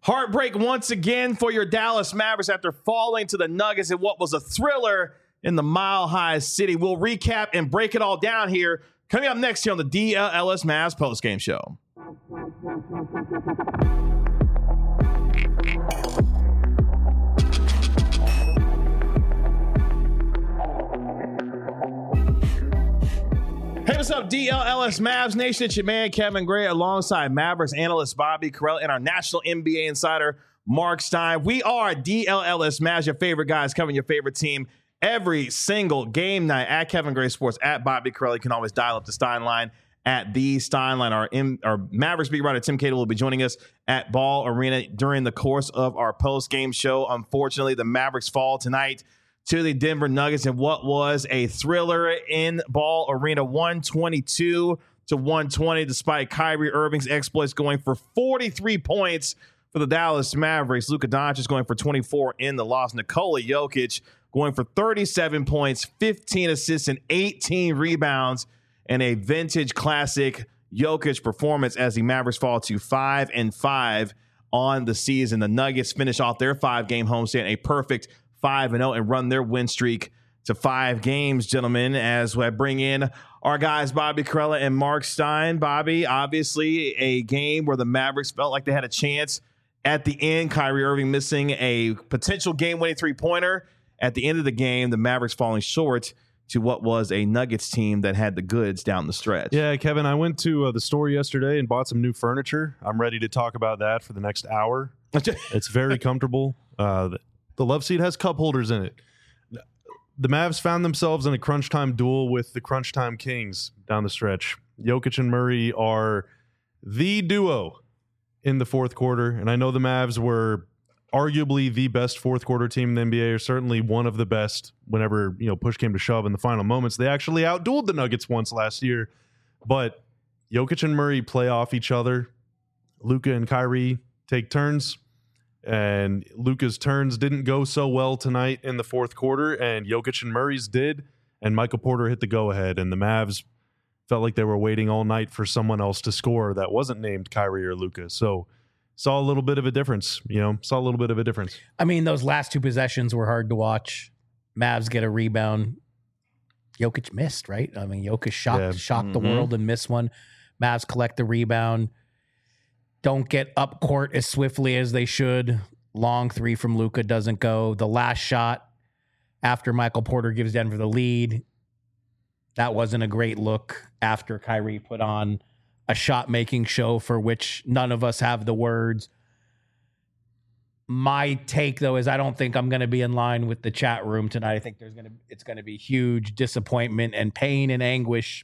Heartbreak once again for your Dallas Mavericks after falling to the Nuggets in what was a thriller in the Mile High City. We'll recap and break it all down here. Coming up next here on the DLS Mavs postgame show. Hey, what's up, DLS Mavs Nation? It's your man, Kevin Gray, alongside Mavericks analyst Bobby Carell and our national NBA insider, Mark Stein. We are DLS Mavs, your favorite guys covering your favorite team every single game night at Kevin Gray Sports, at Bobby Carell. You can always dial up the Stein line at the Stein line. Our Mavericks beat writer Tim Cato will be joining us at Ball Arena during the course of our post-game show. Unfortunately, the Mavericks fall tonight to the Denver Nuggets in what was a thriller in Ball Arena, 122-120, despite Kyrie Irving's exploits going for 43 points for the Dallas Mavericks. Luka Doncic going for 24 in the loss. Nikola Jokic going for 37 points, 15 assists, and 18 rebounds, and a vintage classic Jokic performance as the Mavericks fall to 5-5 on the season. The Nuggets finish off their 5-game homestand, a perfect 5-0, and run their win streak to 5 games, gentlemen, as I bring in our guys, Bobby Carella and Mark Stein. Bobby, obviously a game where the Mavericks felt like they had a chance at the end. Kyrie Irving missing a potential game-winning three-pointer. At the end of the game, the Mavericks falling short to what was a Nuggets team that had the goods down the stretch. Yeah, Kevin, I went to the store yesterday and bought some new furniture. I'm ready to talk about that for the next hour. It's very comfortable. The love seat has cup holders in it. The Mavs found themselves in a crunch time duel with the crunch time kings down the stretch. Jokic and Murray are the duo in the fourth quarter, and I know the Mavs were arguably the best fourth quarter team in the NBA, or certainly one of the best whenever push came to shove in the final moments. They actually outdueled the Nuggets once last year, but Jokic and Murray play off each other. Luka and Kyrie take turns. And Luka's turns didn't go so well tonight in the fourth quarter, and Jokic and Murray's did, and Michael Porter hit the go-ahead, and the Mavs felt like they were waiting all night for someone else to score that wasn't named Kyrie or Luka. So saw a little bit of a difference, I mean, those last two possessions were hard to watch. Mavs get a rebound. Jokic missed, right? I mean, Jokic shocked the world and missed one. Mavs collect the rebound. Don't get up court as swiftly as they should. Long three from Luka doesn't go. The last shot after Michael Porter gives Denver the lead, that wasn't a great look after Kyrie put on a shot-making show for which none of us have the words. My take, though, is I don't think I'm going to be in line with the chat room tonight. I think it's going to be huge disappointment and pain and anguish.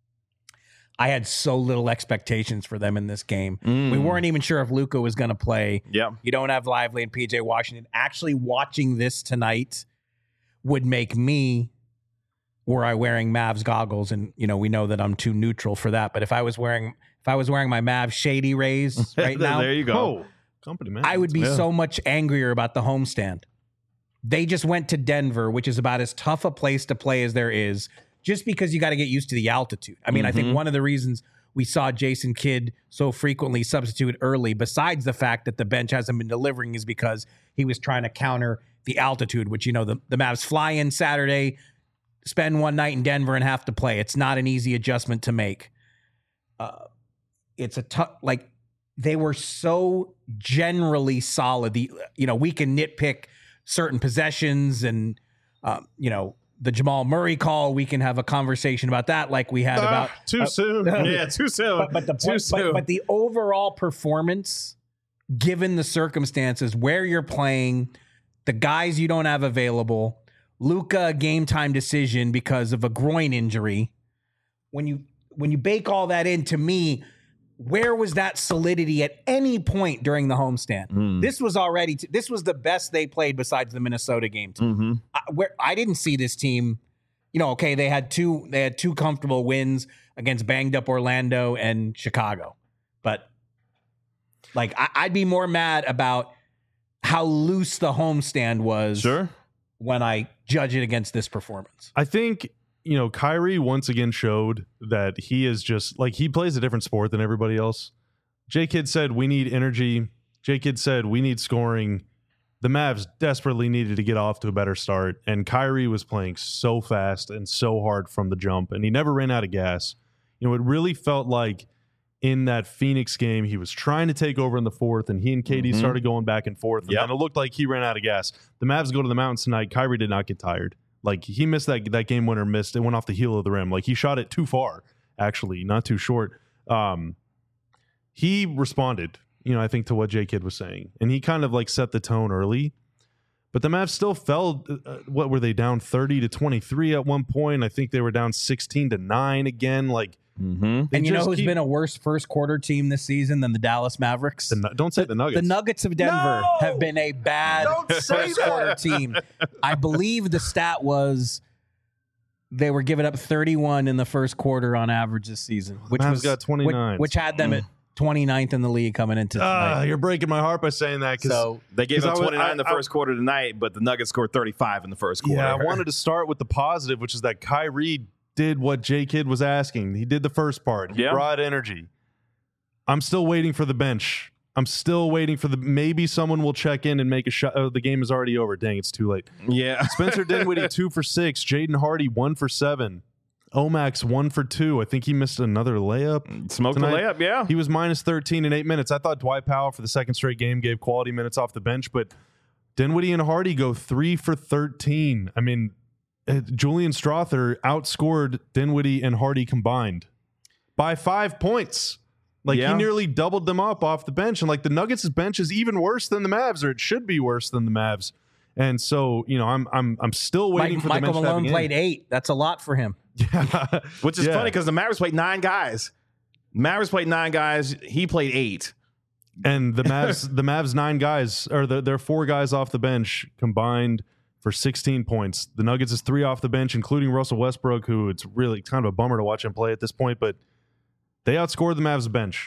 I had so little expectations for them in this game. We weren't even sure if Luka was going to play. Yeah. You don't have Lively and PJ Washington. Actually watching this tonight would make me, were I wearing Mavs goggles, and we know that I'm too neutral for that, but if I was wearing my Mavs Shady Rays right now, there you go. Company man. I would be so much angrier about the homestand. They just went to Denver, which is about as tough a place to play as there is, just because you got to get used to the altitude. I mean, I think one of the reasons we saw Jason Kidd so frequently substitute early, besides the fact that the bench hasn't been delivering, is because he was trying to counter the altitude, which, the Mavs fly in Saturday, spend one night in Denver, and have to play. It's not an easy adjustment to make. It's a tough, they were so generally solid. We can nitpick certain possessions and, the Jamal Murray call, we can have a conversation about that like we had about... Too soon. Yeah, too soon. But the overall performance, given the circumstances, where you're playing, the guys you don't have available, Luka, a game time decision because of a groin injury, when you bake all that in, to me, where was that solidity at any point during the homestand? This was the best they played besides the Minnesota game. Where I didn't see this team, okay, they had two comfortable wins against banged up Orlando and Chicago, but I'd be more mad about how loose the homestand was when I judge it against this performance. I think Kyrie once again showed that he is just he plays a different sport than everybody else. J. Kidd said, we need energy J-Kid said, we need scoring. The Mavs desperately needed to get off to a better start, and Kyrie was playing so fast and so hard from the jump, and he never ran out of gas. You know, it really felt like in that Phoenix game, he was trying to take over in the fourth, and he and KD started going back and forth, and then it looked like he ran out of gas. The Mavs go to the mountains tonight. Kyrie did not get tired. Like, he missed that game winner, it went off the heel of the rim. Like, he shot it too far, actually, not too short. He responded, I think, to what J-Kid was saying. And he kind of like set the tone early. But the Mavs still fell. What were they, down 30-23 at one point? I think they were down 16-9 again. Like, and you know who's been a worse first quarter team this season than the Dallas Mavericks? Don't say the Nuggets. The Nuggets of Denver have been a bad first quarter team. I believe the stat was they were giving up 31 in the first quarter on average this season, which Mavs was got 29, which had them at 29th in the league coming into tonight. You're breaking my heart by saying that. So they gave up 29 in the first quarter tonight, but the Nuggets scored 35 in the first quarter. Yeah, I wanted to start with the positive, which is that Kyrie did what J-Kid was asking. He did the first part. He brought energy. I'm still waiting for the bench. I'm still waiting for maybe someone will check in and make a shot. Oh, the game is already over. Dang, it's too late. Yeah. Spencer Dinwiddie 2 for 6. Jaden Hardy 1 for 7. Omax 1 for 2. I think he missed another layup. Smoked the layup, yeah. He was minus 13 in 8 minutes. I thought Dwight Powell for the second straight game gave quality minutes off the bench, but Dinwiddie and Hardy go 3 for 13. I mean, Julian Strawther outscored Dinwiddie and Hardy combined by 5 points. Like, he nearly doubled them up off the bench. And, like, the Nuggets' bench is even worse than the Mavs, or it should be worse than the Mavs. And so, I'm still waiting for the bench to have Michael Malone played 8. That's a lot for him. Yeah. Which is funny because the Mavericks played 9 guys. Mavericks played 9 guys. He played 8. And the Mavs 9 guys, or their 4 guys off the bench combined for 16 points. The Nuggets is 3 off the bench, including Russell Westbrook, who it's really kind of a bummer to watch him play at this point, but they outscored the Mavs bench.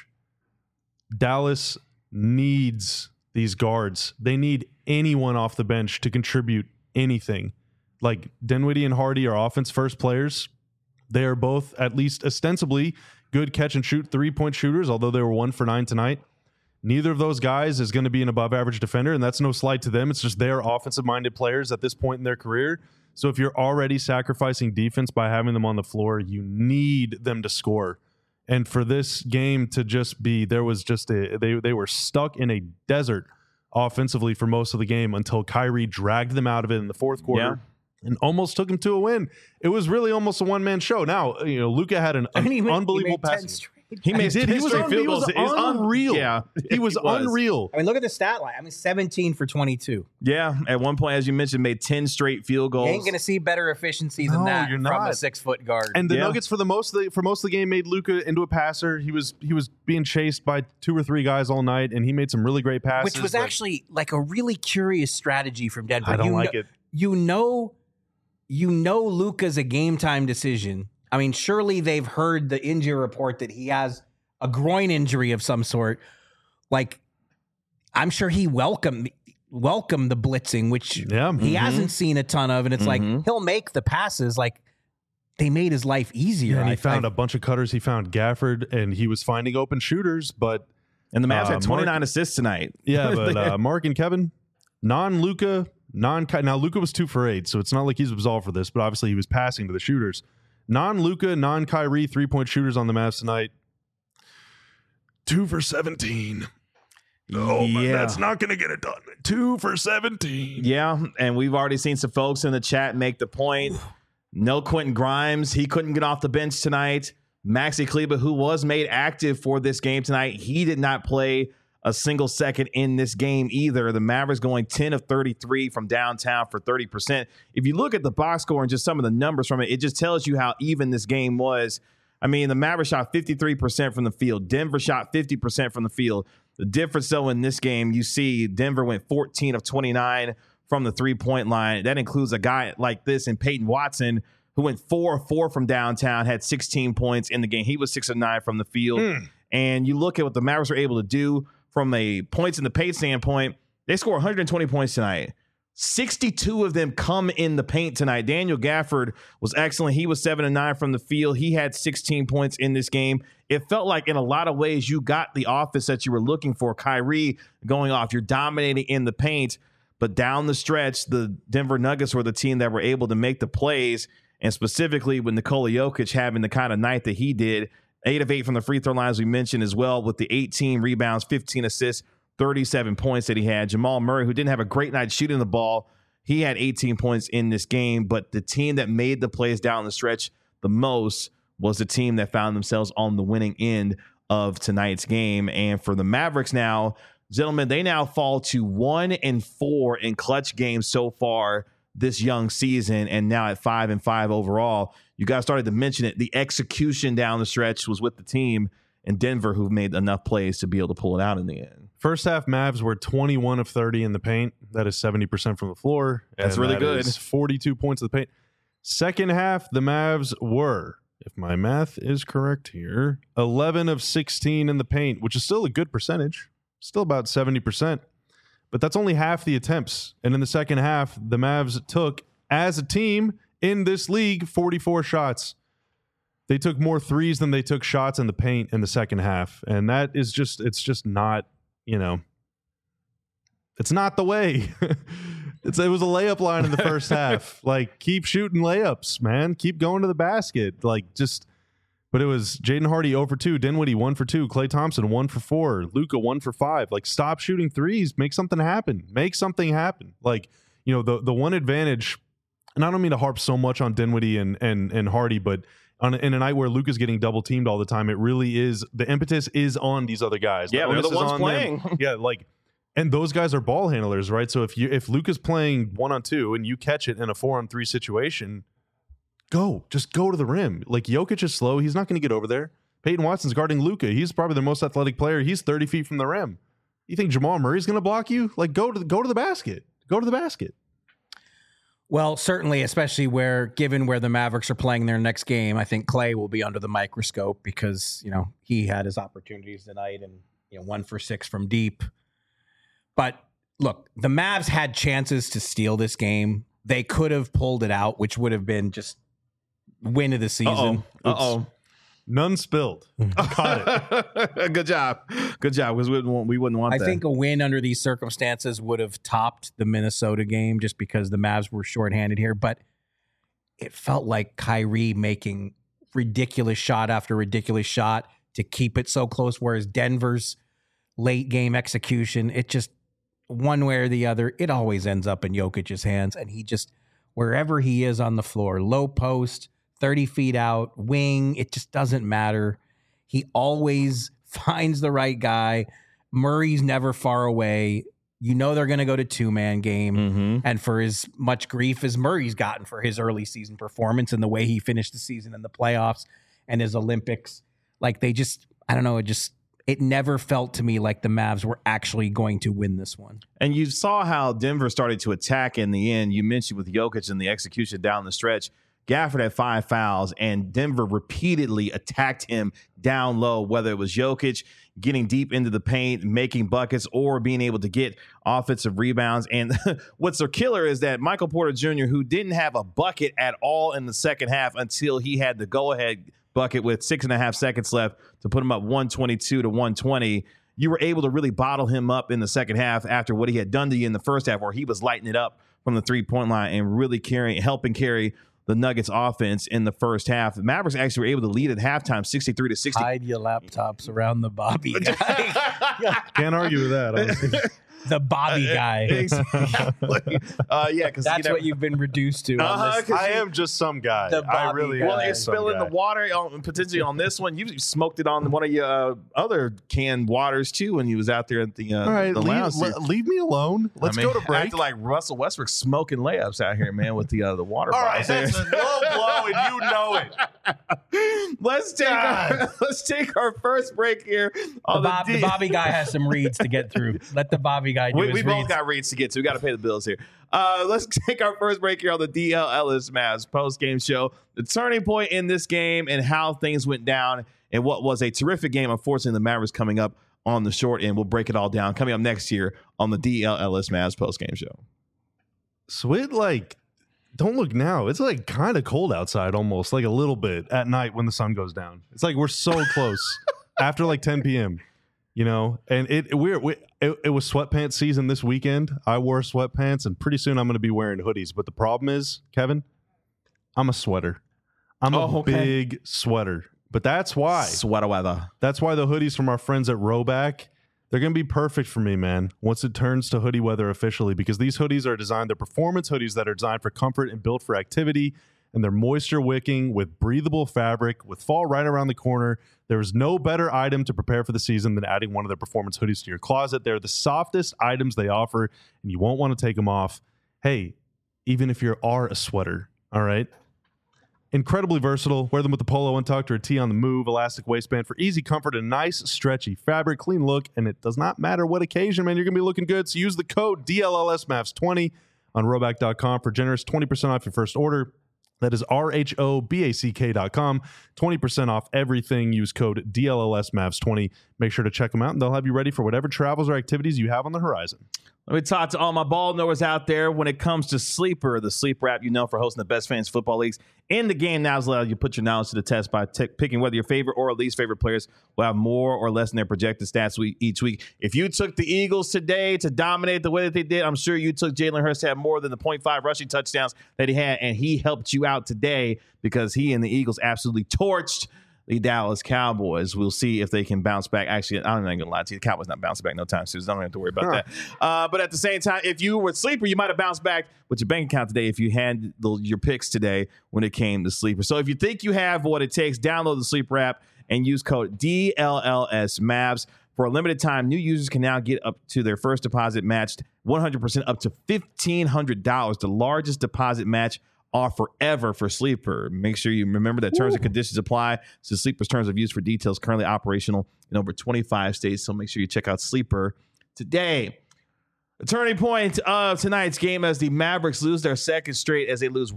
Dallas needs these guards. They need anyone off the bench to contribute anything. Like, Dinwiddie and Hardy are offense first players. They are both, at least ostensibly, good catch and shoot 3-point shooters, although they were 1 for 9 tonight. Neither of those guys is going to be an above average defender, and that's no slight to them. It's just they're offensive minded players at this point in their career. So if you're already sacrificing defense by having them on the floor, you need them to score. And for this game to just be, there was just they were stuck in a desert offensively for most of the game until Kyrie dragged them out of it in the fourth quarter and almost took them to a win. It was really almost a one-man show. Now, Luka had an unbelievable passing. He made 10 straight field goals. He was unreal. Yeah, he was unreal. I mean, look at the stat line. 17 for 22. Yeah, at one point, as you mentioned, made 10 straight field goals. You ain't going to see better efficiency than that from a 6-foot guard. And the Nuggets, for most of the game, made Luka into a passer. He was being chased by 2 or 3 guys all night, and he made some really great passes. Which was actually like a really curious strategy from Denver. I don't like it. You know Luka's a game time decision. I mean, surely they've heard the injury report that he has a groin injury of some sort. Like, I'm sure he welcomed the blitzing, which he hasn't seen a ton of. And it's like, he'll make the passes. Like, they made his life easier. Yeah, and he found a bunch of cutters. He found Gafford, and he was finding open shooters. And the Mavs had 29 assists tonight. Yeah, but Mark and Kevin, non-Luka, now Luka was 2 for 8, so it's not like he's absolved for this, but obviously he was passing to the shooters. Non-Luka, non-Kyrie 3-point shooters on the Mavs tonight. 2 for 17. Oh, but that's not going to get it done. 2 for 17. Yeah, and we've already seen some folks in the chat make the point. No Quentin Grimes. He couldn't get off the bench tonight. Maxi Kleber, who was made active for this game tonight, he did not play a single second in this game either. The Mavericks going 10 of 33 from downtown for 30%. If you look at the box score and just some of the numbers from it, it just tells you how even this game was. I mean, the Mavericks shot 53% from the field. Denver shot 50% from the field. The difference, though, in this game, you see Denver went 14 of 29 from the 3-point line. That includes a guy like this in Peyton Watson, who went 4 of 4 from downtown, had 16 points in the game. He was 6 of 9 from the field. And you look at what the Mavericks were able to do from a points in the paint standpoint. They scored 120 points tonight. 62 of them come in the paint tonight. Daniel Gafford was excellent. He was 7 and 9 from the field. He had 16 points in this game. It felt like in a lot of ways you got the offense that you were looking for. Kyrie going off. You're dominating in the paint. But down the stretch, the Denver Nuggets were the team that were able to make the plays. And specifically with Nikola Jokic having the kind of night that he did, 8 of 8 from the free throw line, as we mentioned as well, with the 18 rebounds, 15 assists, 37 points that he had. Jamal Murray, who didn't have a great night shooting the ball, he had 18 points in this game. But the team that made the plays down the stretch the most was the team that found themselves on the winning end of tonight's game. And for the Mavericks now, gentlemen, they now fall to 1-4 in clutch games so far this young season, and now at 5-5 overall. You guys started to mention it. The execution down the stretch was with the team in Denver, who made enough plays to be able to pull it out in the end. First half Mavs were 21 of 30 in the paint. That is 70% from the floor. That's really good. Is 42 points of the paint. Second half, the Mavs were, if my math is correct here, 11 of 16 in the paint, which is still a good percentage. Still about 70%. But that's only half the attempts. And in the second half, the Mavs took, as a team in this league, 44 shots. They took more threes than they took shots in the paint in the second half. And that is just, it's just not, it's not the way. It was a layup line in the first half. Like, keep shooting layups, man. Keep going to the basket. But it was Jaden Hardy 0 for 2, Dinwiddie 1 for 2, Klay Thompson 1 for 4, Luka 1 for 5. Like, stop shooting threes. Make something happen. Make something happen. Like, the one advantage, and I don't mean to harp so much on Dinwiddie and Hardy, but in a night where Luka's getting double teamed all the time, it really is, the impetus is on these other guys. Yeah, they're the ones playing. Yeah, and those guys are ball handlers, right? So if Luka's playing 1-on-2 and you catch it in a 4-on-3 situation, just go to the rim. Like, Jokic is slow. He's not going to get over there. Peyton Watson's guarding Luka. He's probably the most athletic player. He's 30 feet from the rim. You think Jamal Murray's going to block you? Like, go to the basket. Go to the basket. Well, certainly, especially given where the Mavericks are playing their next game, I think Klay will be under the microscope because, he had his opportunities tonight and, 1 for 6 from deep. But look, the Mavs had chances to steal this game. They could have pulled it out, which would have been just win of the season. None spilled. Caught it. Good job, because we wouldn't want that. I think a win under these circumstances would have topped the Minnesota game just because the Mavs were shorthanded here. But it felt like Kyrie making ridiculous shot after ridiculous shot to keep it so close, whereas Denver's late game execution, it just, one way or the other, it always ends up in Jokic's hands. And he just, wherever he is on the floor, low post, 30 feet out, wing, it just doesn't matter. He always finds the right guy. Murray's never far away. They're going to go to 2-man game. Mm-hmm. And for as much grief as Murray's gotten for his early season performance and the way he finished the season in the playoffs and his Olympics, like, they just, I don't know, it never felt to me like the Mavs were actually going to win this one. And you saw how Denver started to attack in the end. You mentioned with Jokic and the execution down the stretch. Gafford had 5 fouls, and Denver repeatedly attacked him down low, whether it was Jokic getting deep into the paint, making buckets, or being able to get offensive rebounds. And what's so killer is that Michael Porter Jr., who didn't have a bucket at all in the second half until he had the go-ahead bucket with 6.5 seconds left to put him up 122 to 120. You were able to really bottle him up in the second half after what he had done to you in the first half, where he was lighting it up from the 3-point line and really helping carry the Nuggets offense in the first half. The Mavericks actually were able to lead at halftime 63-60. Hide your laptops around the Bobby guy. Can't argue with that, honestly. The Bobby guy. Exactly. Because that's what you've been reduced to. I am just some guy. I really am. Well, you're spilling the water potentially on this one. You smoked it on one of your other canned waters too when you was out there at the all right, the lounge. Leave me alone. Let's go to break. Acting like Russell Westbrook smoking layups out here, man, with the water. All right, that's a low blow, and you know it. Let's take our first break here. The Bobby guy has some reads to get through. Let the Bobby guy do his we reads. both got reads to get to. We got to pay the bills here. Let's take our first break here on the DL Ellis Mavs post-game show. The turning point in this game and how things went down in what was a terrific game. Unfortunately, the Mavericks coming up on the short end. We'll break it all down coming up next year on the DL Ellis Mavs post-game show. Swit, like, don't look now. It's like kind of cold outside almost, like a little bit at night when the sun goes down. It's like we're so close after like 10 p.m., you know? And it was sweatpants season this weekend. I wore sweatpants, and pretty soon I'm going to be wearing hoodies. But the problem is, Kevin, I'm a sweater. I'm a big sweater. But that's why. Sweater weather. That's why the hoodies from our friends at Rowback, they're going to be perfect for me, man, once it turns to hoodie weather officially, because these hoodies are designed, they're performance hoodies that are designed for comfort and built for activity, and they're moisture wicking with breathable fabric. With fall right around the corner, there is no better item to prepare for the season than adding one of their performance hoodies to your closet. They're the softest items they offer, and you won't want to take them off. Hey, even if you are a sweater, all right? Incredibly versatile. Wear them with a polo untucked or a tee on the move. Elastic waistband for easy comfort and nice stretchy fabric. Clean look, and it does not matter what occasion, man. You're going to be looking good. So use the code DLLSMavs20 on Rowback.com for generous 20% off your first order. That is RHOBACK.com. 20% off everything. Use code DLLSMavs20. Make sure to check them out, and they'll have you ready for whatever travels or activities you have on the horizon. Let me talk to all my ball knowers out there when it comes to Sleeper, the Sleeper app you know for hosting the best fantasy football leagues in the game. Now is allowed you to put your knowledge to the test by picking whether your favorite or least favorite players will have more or less in their projected stats each week. If you took the Eagles today to dominate the way that they did, I'm sure you took Jalen Hurts to have more than the 0.5 rushing touchdowns that he had, and he helped you out today because he and the Eagles absolutely torched the Dallas Cowboys. We'll see if they can bounce back. Actually, I'm not going to lie to you. The Cowboys not bouncing back no time soon. So I don't have to worry about that. But at the same time, if you were a Sleeper, you might have bounced back with your bank account today if you had your picks today when it came to Sleeper. So if you think you have what it takes, download the Sleeper app and use code DLLSMavs. For a limited time, new users can now get up to their first deposit matched 100% up to $1,500, the largest deposit match offer ever for Sleeper. Make sure you remember that terms and conditions apply. So Sleeper's terms of use for details currently operational in over 25 states. So make sure you check out Sleeper today. The turning point of tonight's game as the Mavericks lose their second straight as they lose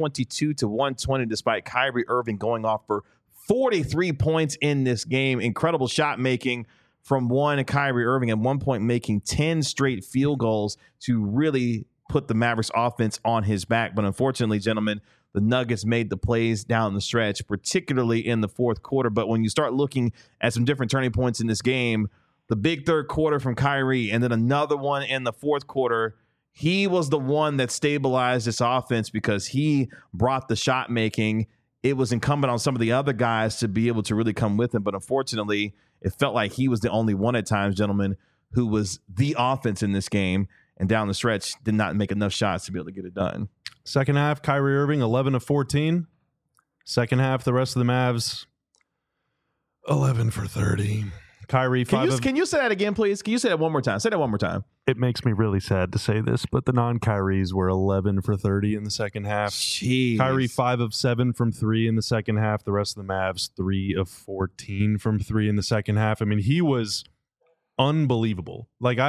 122-120 despite Kyrie Irving going off for 43 points in this game. Incredible shot making from Kyrie Irving at one point making 10 straight field goals to really put the Mavericks offense on his back. But unfortunately, gentlemen, the Nuggets made the plays down the stretch, particularly in the fourth quarter. But when you start looking at some different turning points in this game, the big third quarter from Kyrie and then another one in the fourth quarter, he was the one that stabilized this offense because he brought the shot making. It was incumbent on some of the other guys to be able to really come with him. But unfortunately, it felt like he was the only one at times, gentlemen, who was the offense in this game. And down the stretch, did not make enough shots to be able to get it done. Second half, Kyrie Irving, 11 of 14. Second half, the rest of the Mavs, 11 for 30. Kyrie, Can you say that again, please? Can you say that one more time? Say that one more time. It makes me really sad to say this, but the non-Kyries were 11 for 30 in the second half. Jeez. Kyrie, 5 of 7 from 3 in the second half. The rest of the Mavs, 3 of 14 from 3 in the second half. I mean, he was unbelievable. Like,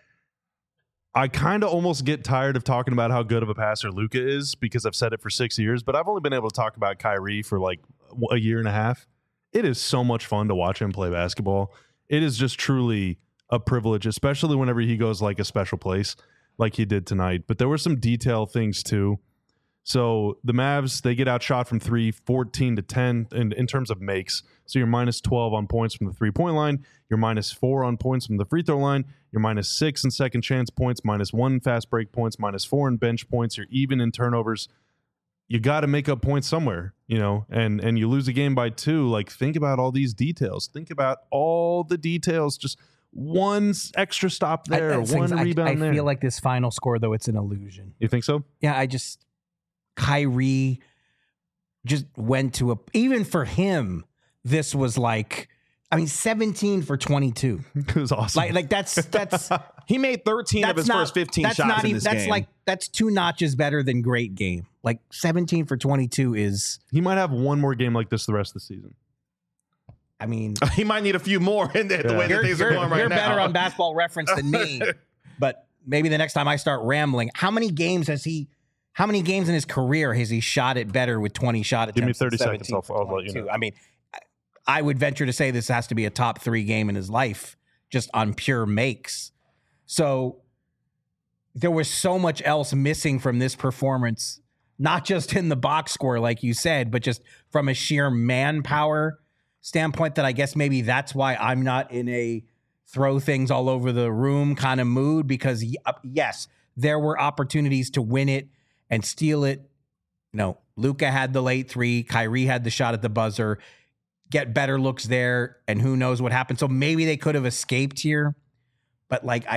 I kind of almost get tired of talking about how good of a passer Luka is because I've said it for 6 years, but I've only been able to talk about Kyrie for like a year and a half. It is so much fun to watch him play basketball. It is just truly a privilege, especially whenever he goes like a special place like he did tonight. But there were some detail things too. So the Mavs, they get outshot from 3, 14-10 in terms of makes. So you're minus 12 on points from the three-point line. You're minus 4 on points from the free throw line. You're minus 6 in second chance points, minus 1 fast break points, minus 4 in bench points. You're even in turnovers. You got to make up points somewhere, you know, and you lose a game by 2. Like, think about all these details. Think about all the details. Just one extra stop there, one rebound there. I feel like this final score, though, it's an illusion. You think so? Yeah, Kyrie just went to even for him, this was like, 17 for 22. It was awesome. Like that's he made 13 of his first 15 shots in this game. That's 2 notches better than great game. Like 17 for 22 is. He might have one more game like this the rest of the season. I mean, he might need a few more in the way that things are going right now. You're better on Basketball Reference than me, but maybe the next time I start rambling, how many games in his career has he shot it better with 20 shot attempts? Give me 30 seconds. I'll let you know. I mean, I would venture to say this has to be a top 3 game in his life, just on pure makes. So there was so much else missing from this performance, not just in the box score, like you said, but just from a sheer manpower standpoint, that I guess maybe that's why I'm not in a throw things all over the room kind of mood, because yes, there were opportunities to win it and steal it. No, Luka had the late three, Kyrie had the shot at the buzzer, get better looks there, and who knows what happened. So maybe they could have escaped here, but like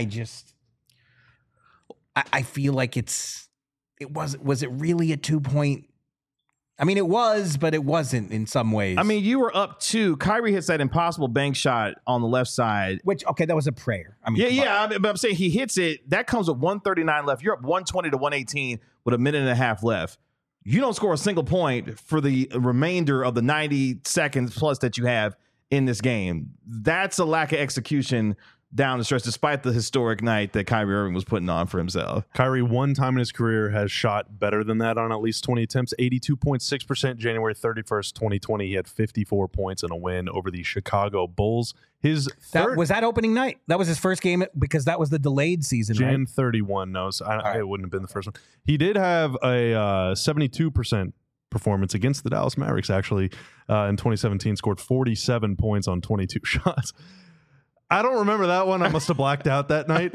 I feel like was it really a 2-point? I mean, it was, but it wasn't in some ways. I mean, you were up 2. Kyrie hits that impossible bank shot on the left side. Which, okay, that was a prayer. I mean, but I'm saying he hits it. That comes with 139 left. You're up 120 to 118 with a minute and a half left. You don't score a single point for the remainder of the 90 seconds plus that you have in this game. That's a lack of execution down the stretch, despite the historic night that Kyrie Irving was putting on for himself. Kyrie, one time in his career, has shot better than that on at least 20 attempts. 82.6%. January 31st, 2020, he had 54 points in a win over the Chicago Bulls. His third was that opening night. That was his first game, because that was the delayed season, Jan right? 31. No, so it wouldn't have been the first one. He did have a 72% performance against the Dallas Mavericks, actually, in 2017. Scored 47 points on 22 shots. I don't remember that one. I must have blacked out that night.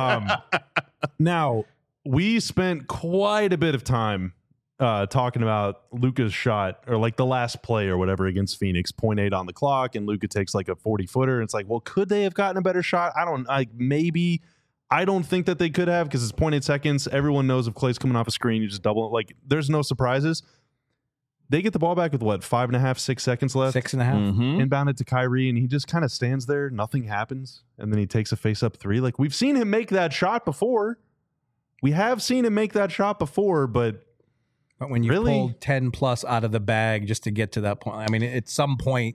Now, we spent quite a bit of time talking about Luka's shot, or like the last play or whatever against Phoenix, 0.8 on the clock, and Luka takes like a 40-footer. It's like, well, could they have gotten a better shot? Maybe. I don't think that they could have, because it's 0.8 seconds. Everyone knows if Clay's coming off a screen, you just double it. Like, there's no surprises. They get the ball back with 5.5, 6 seconds left. 6.5. Inbounded to Kyrie, and he just kind of stands there. Nothing happens. And then he takes a face-up 3. Like, we've seen him make that shot before. We have seen him make that shot before, but when you pulled 10 plus out of the bag just to get to that point, I mean, at some point,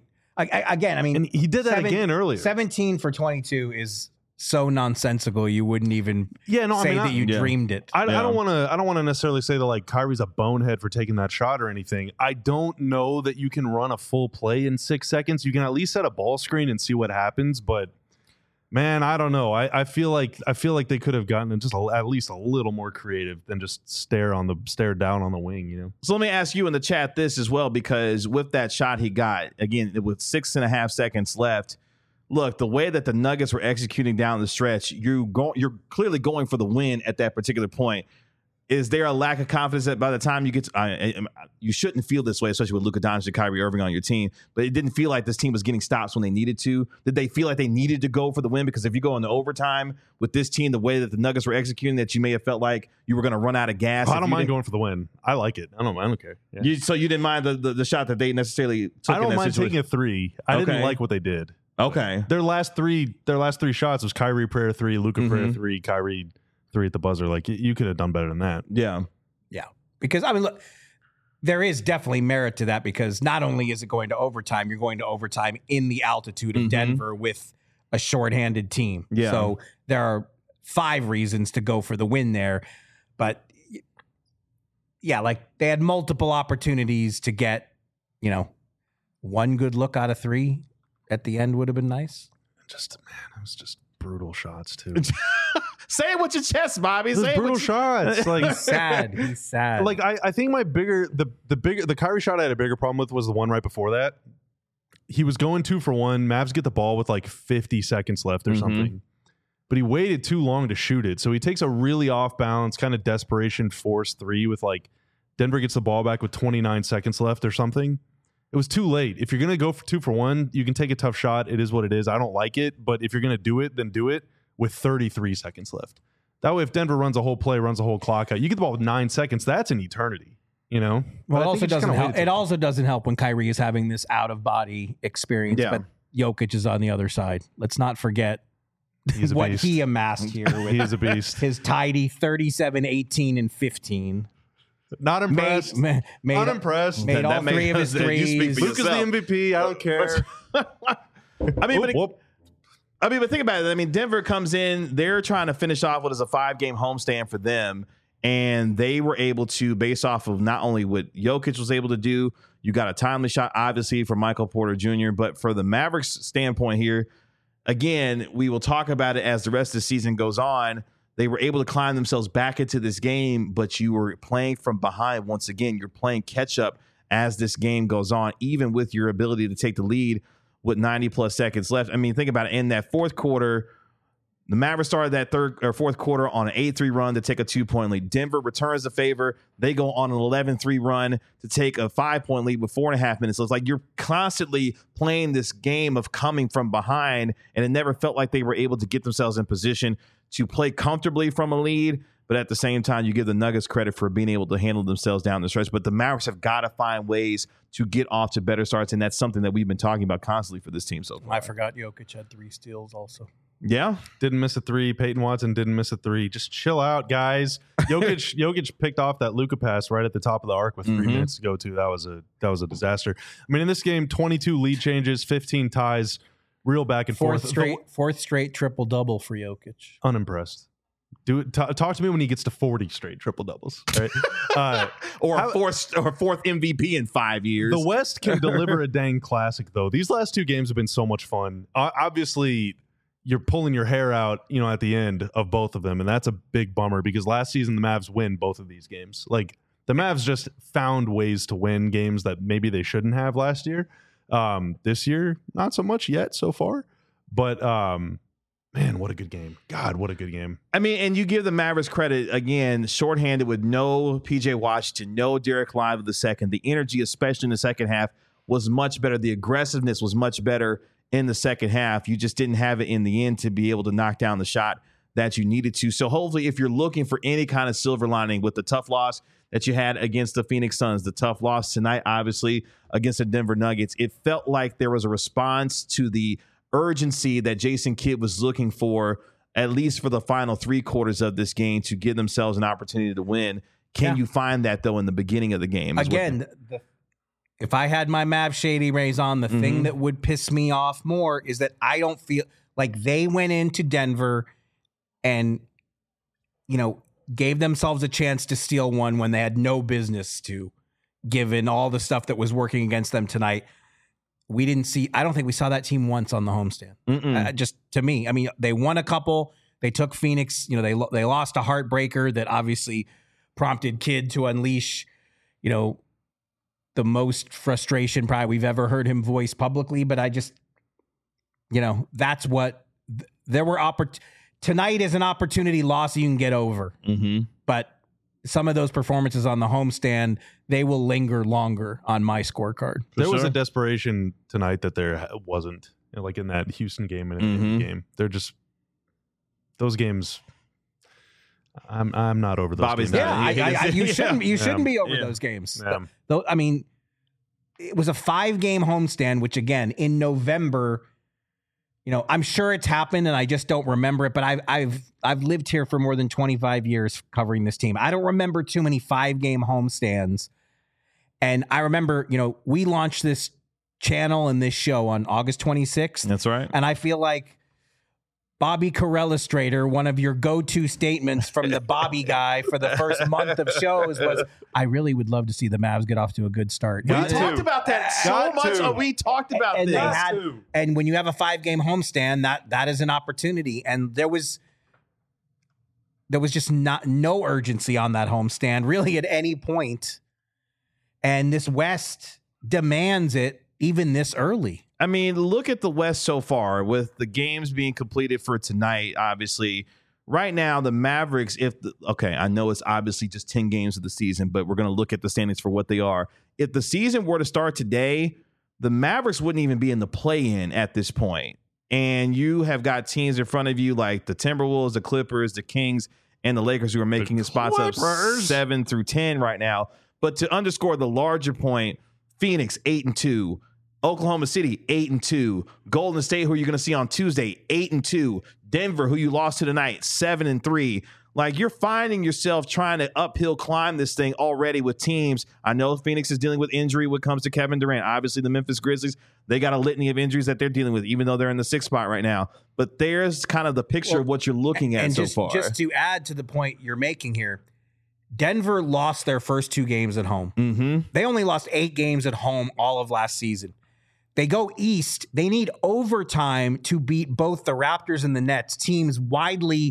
and he did that again earlier. 17 for 22 is so nonsensical, you wouldn't even that you dreamed it. I don't want to necessarily say that like Kyrie's a bonehead for taking that shot or anything. I don't know that you can run a full play in 6 seconds. You can at least set a ball screen and see what happens, but man, I don't know. I feel like they could have gotten just at least a little more creative than just stare down on the wing, you know. So let me ask you in the chat this as well, because with that shot he got, again, with 6.5 seconds left, look, the way that the Nuggets were executing down the stretch, you're clearly going for the win at that particular point. Is there a lack of confidence that by the time you get to, you shouldn't feel this way, especially with Luka Doncic and Kyrie Irving on your team, but it didn't feel like this team was getting stops when they needed to? Did they feel like they needed to go for the win? Because if you go into overtime with this team, the way that the Nuggets were executing, that you may have felt like you were going to run out of gas. I don't mind going for the win. I like it. I don't care. Yeah. So you didn't mind the shot that they necessarily took? I don't mind taking a 3. I didn't like what they did. Okay. Their last three shots was Kyrie prayer 3, Luka prayer 3, Kyrie 3 at the buzzer. Like, you could have done better than that. Yeah. Yeah. Because, I mean, look, there is definitely merit to that, because not only is it going to overtime, you're going to overtime in the altitude of Denver with a shorthanded team. Yeah. So there are 5 reasons to go for the win there. But, yeah, like they had multiple opportunities to get, one good look out of 3 at the end would have been nice. It was just brutal shots too. Say it with your chest, Bobby. Say brutal shots. Like he's sad. He's sad. Like I think the Kyrie shot I had a bigger problem with was the one right before that. He was going 2 for 1. Mavs get the ball with like 50 seconds left or something, but he waited too long to shoot it. So he takes a really off balance kind of desperation force 3 with like Denver gets the ball back with 29 seconds left or something. It was too late. If you're going to go for 2 for 1, you can take a tough shot. It is what it is. I don't like it, but if you're going to do it, then do it with 33 seconds left. That way, if Denver runs a whole play, runs a whole clock out, you get the ball with 9 seconds. That's an eternity, Well, it also doesn't help. It also doesn't help when Kyrie is having this out of body experience, but Jokic is on the other side. Let's not forget what he amassed here. He is a beast. His tidy 37, 18, and 15. Not impressed. Not impressed. Made all 3 of his threes. Luka's the MVP. I don't care. But think about it. Denver comes in. They're trying to finish off what is a 5-game homestand for them, and they were able to, based off of not only what Jokic was able to do, you got a timely shot, obviously, for Michael Porter Jr., but for the Mavericks standpoint here, again, we will talk about it as the rest of the season goes on. they were able to climb themselves back into this game, but you were playing from behind. Once again, you're playing catch up as this game goes on, even with your ability to take the lead with 90 plus seconds left. I mean, think about it. In that fourth quarter, the Mavericks started that fourth quarter on an 8-3 run to take a 2-point lead. Denver returns the favor. They go on an 11-3 run to take a 5-point lead with 4.5 minutes. So it's like you're constantly playing this game of coming from behind, and it never felt like they were able to get themselves in position to play comfortably from a lead. But at the same time, you give the Nuggets credit for being able to handle themselves down the stretch. But the Mavericks have got to find ways to get off to better starts, and that's something that we've been talking about constantly for this team so far. I forgot Jokic had 3 steals also. Yeah. Didn't miss a 3. Peyton Watson didn't miss a 3. Just chill out, guys. Jokic picked off that Luka pass right at the top of the arc with 3 minutes to go too. That was a disaster. I mean, in this game, 22 lead changes, 15 ties, real back and forth. Fourth straight triple-double for Jokic. Unimpressed. Talk to me when he gets to 40 straight triple doubles, right? Or fourth MVP in 5 years. The West can deliver a dang classic, though. These last 2 games have been so much fun. Obviously, you're pulling your hair out, at the end of both of them, and that's a big bummer because last season the Mavs win both of these games. Like the Mavs just found ways to win games that maybe they shouldn't have last year. This year, not so much yet so far, but. Man, what a good game. God, what a good game. I mean, and you give the Mavericks credit, again, shorthanded with no P.J. Washington, no Derek Lively the second. The energy, especially in the second half, was much better. The aggressiveness was much better in the second half. You just didn't have it in the end to be able to knock down the shot that you needed to. So hopefully, if you're looking for any kind of silver lining with the tough loss that you had against the Phoenix Suns, the tough loss tonight, obviously, against the Denver Nuggets, it felt like there was a response to the urgency that Jason Kidd was looking for, at least for the final 3 quarters of this game, to give themselves an opportunity to win. Can you find that, though, in the beginning of the game? Again, if I had my Mav Shady Rays on, the thing that would piss me off more is that I don't feel like they went into Denver and, gave themselves a chance to steal one when they had no business to, given all the stuff that was working against them tonight. I don't think we saw that team once on the homestand. Just to me, I mean, they won a couple. They took Phoenix. They lost a heartbreaker that obviously prompted Kidd to unleash, the most frustration probably we've ever heard him voice publicly. But I just, that's what there were. Tonight is an opportunity loss you can get over. But some of those performances on the homestand, they will linger longer on my scorecard. There was a desperation tonight that there wasn't, like in that Houston game and in the game. They're just those games. I'm not over those Bobby's games. not. You shouldn't be over those games. Though, I mean, it was a 5-game homestand, which again in November. I'm sure it's happened and I just don't remember it, but I've lived here for more than 25 years covering this team. I don't remember too many 5-game homestands. And I remember, we launched this channel and this show on August 26th. That's right. And I feel like Bobby Carrellastrator, one of your go-to statements from the Bobby guy for the first month of shows was, I really would love to see the Mavs get off to a good start. We talked about that so much. We talked about this. And when you have a 5-game homestand, that is an opportunity. And there was just no urgency on that homestand really at any point. And this West demands it even this early. I mean, look at the West so far with the games being completed for tonight. Obviously, right now, the Mavericks, I know it's obviously just 10 games of the season, but we're going to look at the standings for what they are. If the season were to start today, the Mavericks wouldn't even be in the play-in at this point. And you have got teams in front of you like the Timberwolves, the Clippers, the Kings, and the Lakers who are making spots up 7 through 10 right now. But to underscore the larger point, Phoenix 8-2. Oklahoma City 8-2, Golden State, who you're going to see on Tuesday, 8-2, Denver, who you lost to tonight, 7-3. Like, you're finding yourself trying to uphill climb this thing already with teams. I know Phoenix is dealing with injury when it comes to Kevin Durant. Obviously, the Memphis Grizzlies, they got a litany of injuries that they're dealing with, even though they're in the 6th spot right now. But there's kind of the picture of what you're looking at so far. Just to add to the point you're making here, Denver lost their first 2 games at home. They only lost 8 games at home all of last season. They go east. They need overtime to beat both the Raptors and the Nets, teams widely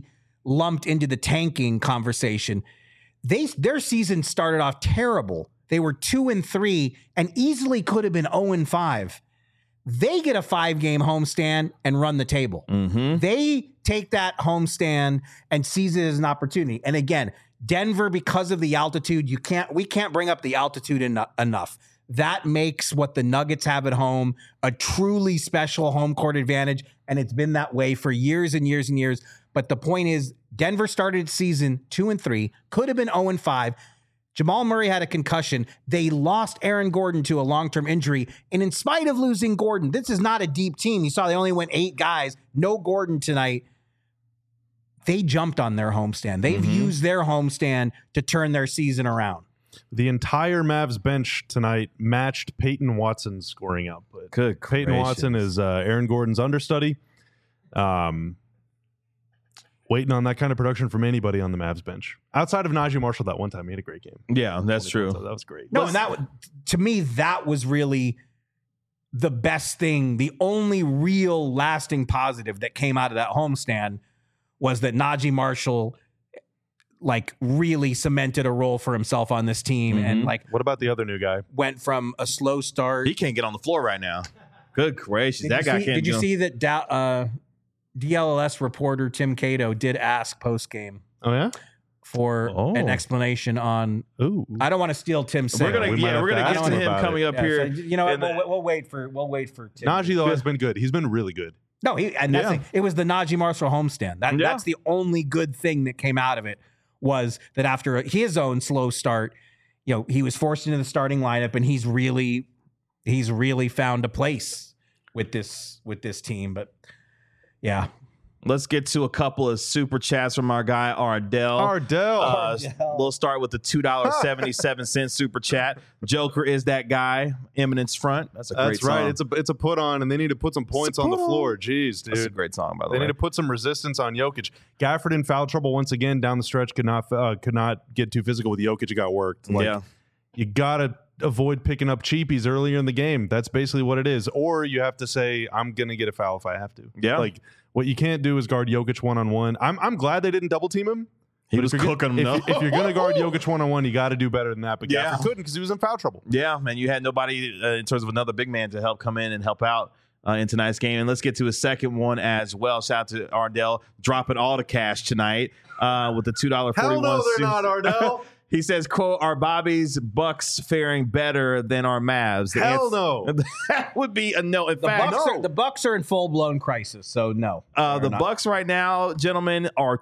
lumped into the tanking conversation. Their season started off terrible. They were 2-3 and easily could have been 0-5. They get a 5-game homestand and run the table. Mm-hmm. They take that homestand and seize it as an opportunity. And again, Denver, because of the altitude, we can't bring up the altitude enough. That makes what the Nuggets have at home a truly special home court advantage, and it's been that way for years and years and years. But the point is, Denver started its season 2-3, could have been 0-5. Jamal Murray had a concussion. They lost Aaron Gordon to a long-term injury. And in spite of losing Gordon, this is not a deep team. You saw they only went 8 guys. No Gordon tonight. They jumped on their homestand. They've used their homestand to turn their season around. The entire Mavs bench tonight matched Peyton Watson's scoring output. Good Peyton gracious. Watson is Aaron Gordon's understudy. Waiting on that kind of production from anybody on the Mavs bench. Outside of Najee Marshall that one time, he had a great game. Yeah, that's true. So that was great. No, and to me, that was really the best thing. The only real lasting positive that came out of that homestand was that Najee Marshall really cemented a role for himself on this team and What about the other new guy? went from a slow start. He can't get on the floor right now. Good gracious. That guy can't. Did you get on- see that DLLS reporter Tim Cato did ask post-game Oh, yeah? for an explanation on. Ooh. I don't want to steal Tim's We're segment. gonna We might have to get ask to him him about coming it. up Yeah, here. so, you know what? And then- We'll wait for Tim. Najee, though, has been good. He's been really good. No, it was the Najee Marshall homestand. That's the only good thing that came out of it, was that after his own slow start, he was forced into the starting lineup, and he's really found a place with this team. But yeah, Let's get to a couple of super chats from our guy Ardell. We'll start with the $2.77 super chat. Joker is that guy. Eminence front. That's a great That's song. right. It's a put on, and they need to put some points on the floor. Jeez, dude. That's a great song, by the They way. need to put some resistance on Jokic. Gafford in foul trouble once again down the stretch. Could not get too physical with Jokic. It got worked. You gotta avoid picking up cheapies earlier in the game. That's basically what it is. Or you have to say, I'm gonna get a foul if I have to. Yeah. What you can't do is guard Jokic 1-on-1. I'm glad they didn't double team him. He But was if you're cooking him, though. If you're gonna guard Jokic 1-on-1, you got to do better than that. But Yeah. Gafford couldn't because he was in foul trouble. Yeah, man, you had nobody in terms of another big man to help come in and help out in tonight's game. And let's get to a second one as well. Shout out to Ardell dropping all the cash tonight with the $2.41. Hell no, they're not, Ardell. He says, quote, "Are Bobby's Bucks faring better than our Mavs?" Hell no. That would be a no. In the fact, Bucks are in full blown crisis. So no, the they're not. Bucks right now, gentlemen, are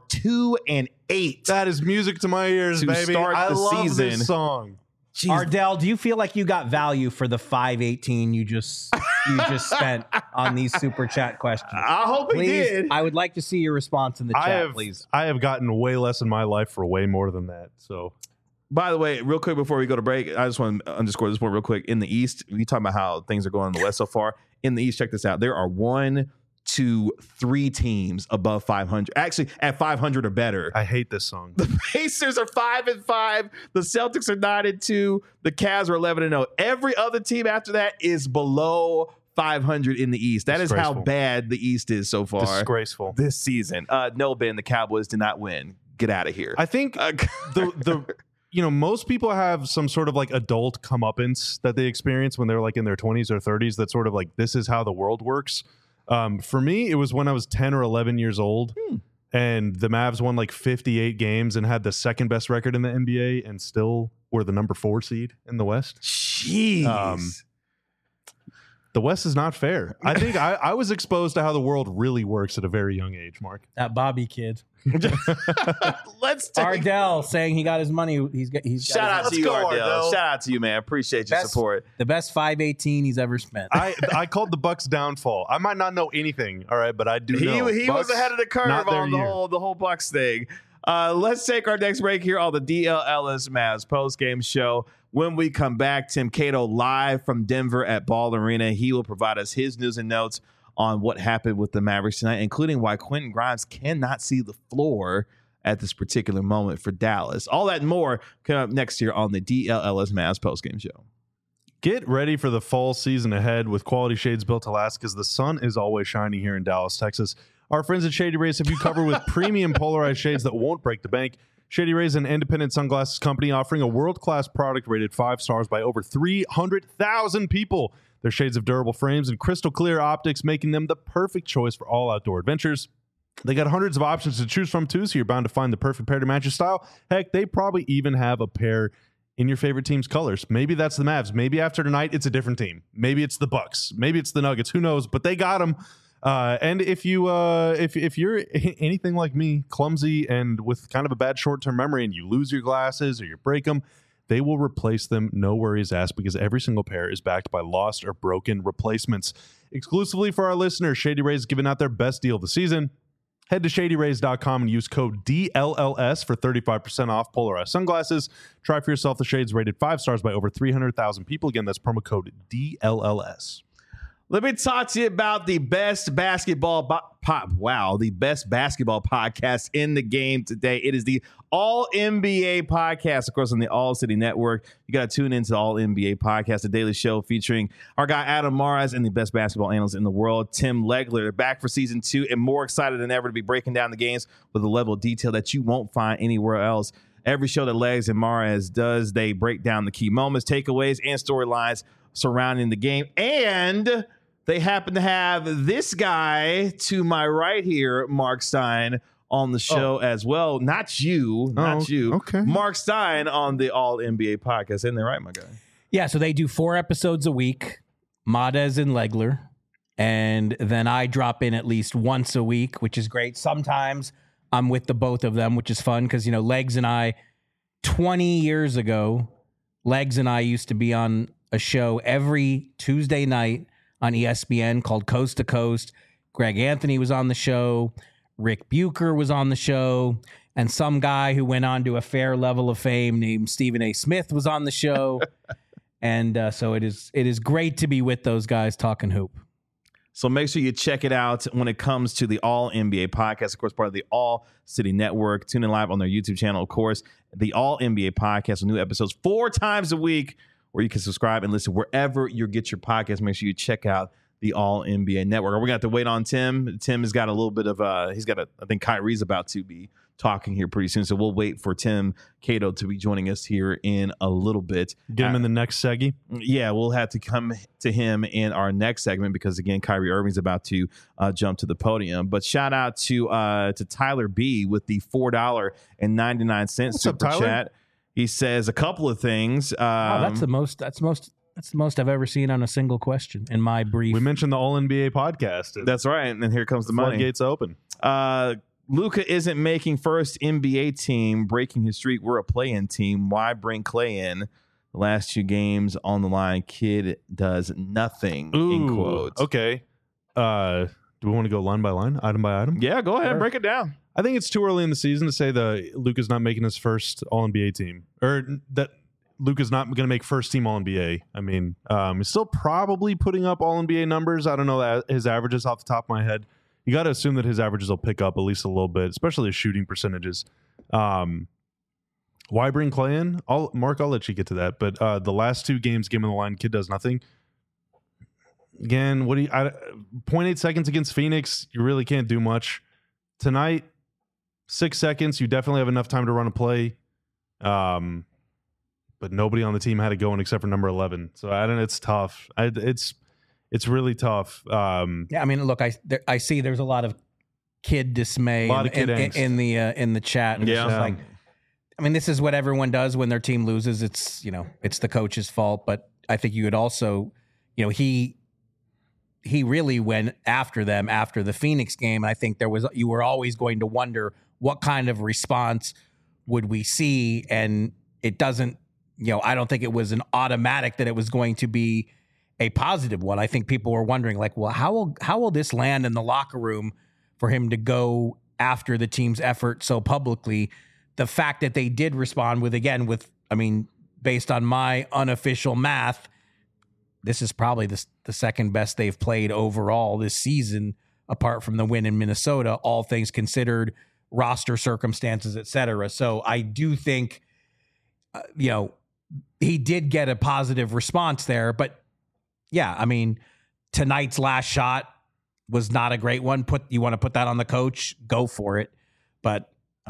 2-8. That is music to my ears, To baby. start I the love season. this song. Jeez. Ardell, do you feel like you got value for the $5.18 you just spent on these super chat questions? I hope he Please, did. I would like to see your response in the chat, please. I have gotten way less in my life for way more than that. So By the way, real quick before we go to break, I just want to underscore this point real quick. In the East, we talk about how things are going in the West so far. In the East, check this out. There are 1, 2, 3 teams above 500. Actually, at 500 or better. I hate this song. The Pacers are 5-5. The Celtics are 9-2. The Cavs are 11-0. Every other team after that is below 500 in the East. That is how Disgraceful. bad the East is so far Disgraceful. this season. No, Ben, the Cowboys did not win. Get out of here. I think the most people have some sort of like adult comeuppance that they experience when they're like in their 20s or 30s. That's sort of like, this is how the world works. For me, it was when I was 10 or 11 years old and the Mavs won like 58 games and had the second best record in the NBA and still were the number 4 seed in the West. Jeez. The West is not fair. I think I was exposed to how the world really works at a very young age, Mark. That Bobby kid. Let's take Ardell saying he got his money. He's got Shout out his to you, go, Ardell. Ardell. Shout out to you, man. Appreciate your Best- support. the best $5.18 he's ever spent. I called the Bucks downfall. I might not know anything, all right, but I do know. He was Bucks, ahead of the curve not their on the year. whole Bucks thing. Let's take our next break here on the DLLS Mavs post-game show. When we come back, Tim Cato live from Denver at Ball Arena. He will provide us his news and notes on what happened with the Mavericks tonight, including why Quentin Grimes cannot see the floor at this particular moment for Dallas. All that and more coming up next year on the DLLS Mavs post-game show. Get ready for the fall season ahead with quality shades built to last because the sun is always shining here in Dallas, Texas. Our friends at Shady Rays have you covered with premium polarized shades that won't break the bank. Shady Rays is an independent sunglasses company offering a world-class product rated 5 stars by over 300,000 people. Their shades of durable frames and crystal clear optics, making them the perfect choice for all outdoor adventures. They got hundreds of options to choose from, too, so you're bound to find the perfect pair to match your style. Heck, they probably even have a pair in your favorite team's colors. Maybe that's the Mavs. Maybe after tonight, it's a different team. Maybe it's the Bucks. Maybe it's the Nuggets. Who knows? But they got them. And if you're anything like me, clumsy and with kind of a bad short-term memory, and you lose your glasses or you break them, they will replace them. No worries asked, because every single pair is backed by lost or broken replacements. Exclusively for our listeners, Shady Rays is giving out their best deal of the season. Head to shadyrays.com and use code DLLS for 35% off polarized sunglasses. Try for yourself the shades rated 5 stars by over 300,000 people. Again, that's promo code DLLS. Let me talk to you about the best basketball the best basketball podcast in the game today. It is the All NBA podcast, of course, on the All City Network. You got to tune into the All NBA podcast, the daily show featuring our guy Adam Mares and the best basketball analyst in the world, Tim Legler. Back for season 2 and more excited than ever to be breaking down the games with a level of detail that you won't find anywhere else. Every show that Legs and Mares does, they break down the key moments, takeaways, and storylines surrounding the game. And they happen to have this guy to my right here, Mark Stein, on the show as well. Not you. Okay. Mark Stein on the All NBA podcast. Isn't that right, my guy? Yeah, so they do 4 episodes a week, Mares and Legler. And then I drop in at least once a week, which is great. Sometimes I'm with the both of them, which is fun because, Legs and I, 20 years ago, Legs and I used to be on a show every Tuesday night on ESPN called Coast to Coast. Greg Anthony was on the show. Rick Bucher was on the show. And some guy who went on to a fair level of fame named Stephen A. Smith was on the show. And so it is great to be with those guys talking hoop. So make sure you check it out when it comes to the All NBA podcast, of course, part of the All City Network. Tune in live on their YouTube channel, of course. The All NBA podcast with new episodes 4 times a week, where you can subscribe and listen wherever you get your podcast. Make sure you check out the All NBA Network. We're going to have to wait on Tim. Tim has got a little bit of I think Kyrie's about to be talking here pretty soon. So we'll wait for Tim Cato to be joining us here in a little bit. Get him in the next seggy. Yeah, we'll have to come to him in our next segment because, again, Kyrie Irving's about to jump to the podium. But shout out to Tyler B with the $4.99 super chat. He says a couple of things. That's the most I've ever seen on a single question in my brief. We mentioned the All NBA podcast. That's right. And here comes the money. Floodgates open. Luka isn't making first NBA team, breaking his streak. We're a play-in team. Why bring Clay in? The last 2 games on the line. Kid does nothing. In quotes. Okay. Do we want to go line by line, item by item? Yeah, go ahead and break it down. I think it's too early in the season to say that Luka's not making his first All-NBA team, or that Luka's not going to make first-team All-NBA. I mean, he's still probably putting up All-NBA numbers. I don't know his averages off the top of my head. You got to assume that his averages will pick up at least a little bit, especially his shooting percentages. Why bring Clay in? Mark, I'll let you get to that. But the last 2 games, game on the line, kid does nothing. Again, 0.8 seconds against Phoenix, you really can't do much. Tonight, 6 seconds, you definitely have enough time to run a play. But nobody on the team had it going except for number 11. So I don't know. It's tough. It's really tough. Yeah, I mean, look, I see there's a lot of kid dismay in the chat. And yeah, it's just like, I mean, this is what everyone does when their team loses. It's it's the coach's fault. But I think you would also, he really went after them after the Phoenix game. And I think you were always going to wonder what kind of response would we see, and it doesn't. I don't think it was an automatic that it was going to be a positive one. I think people were wondering, like, well, how will this land in the locker room for him to go after the team's effort so publicly? The fact that they did respond with, based on my unofficial math, this is probably the second best they've played overall this season, apart from the win in Minnesota, all things considered, roster circumstances, et cetera. So I do think, he did get a positive response there, but yeah, I mean, tonight's last shot, was not a great one. You want to put that on the coach, go for it. But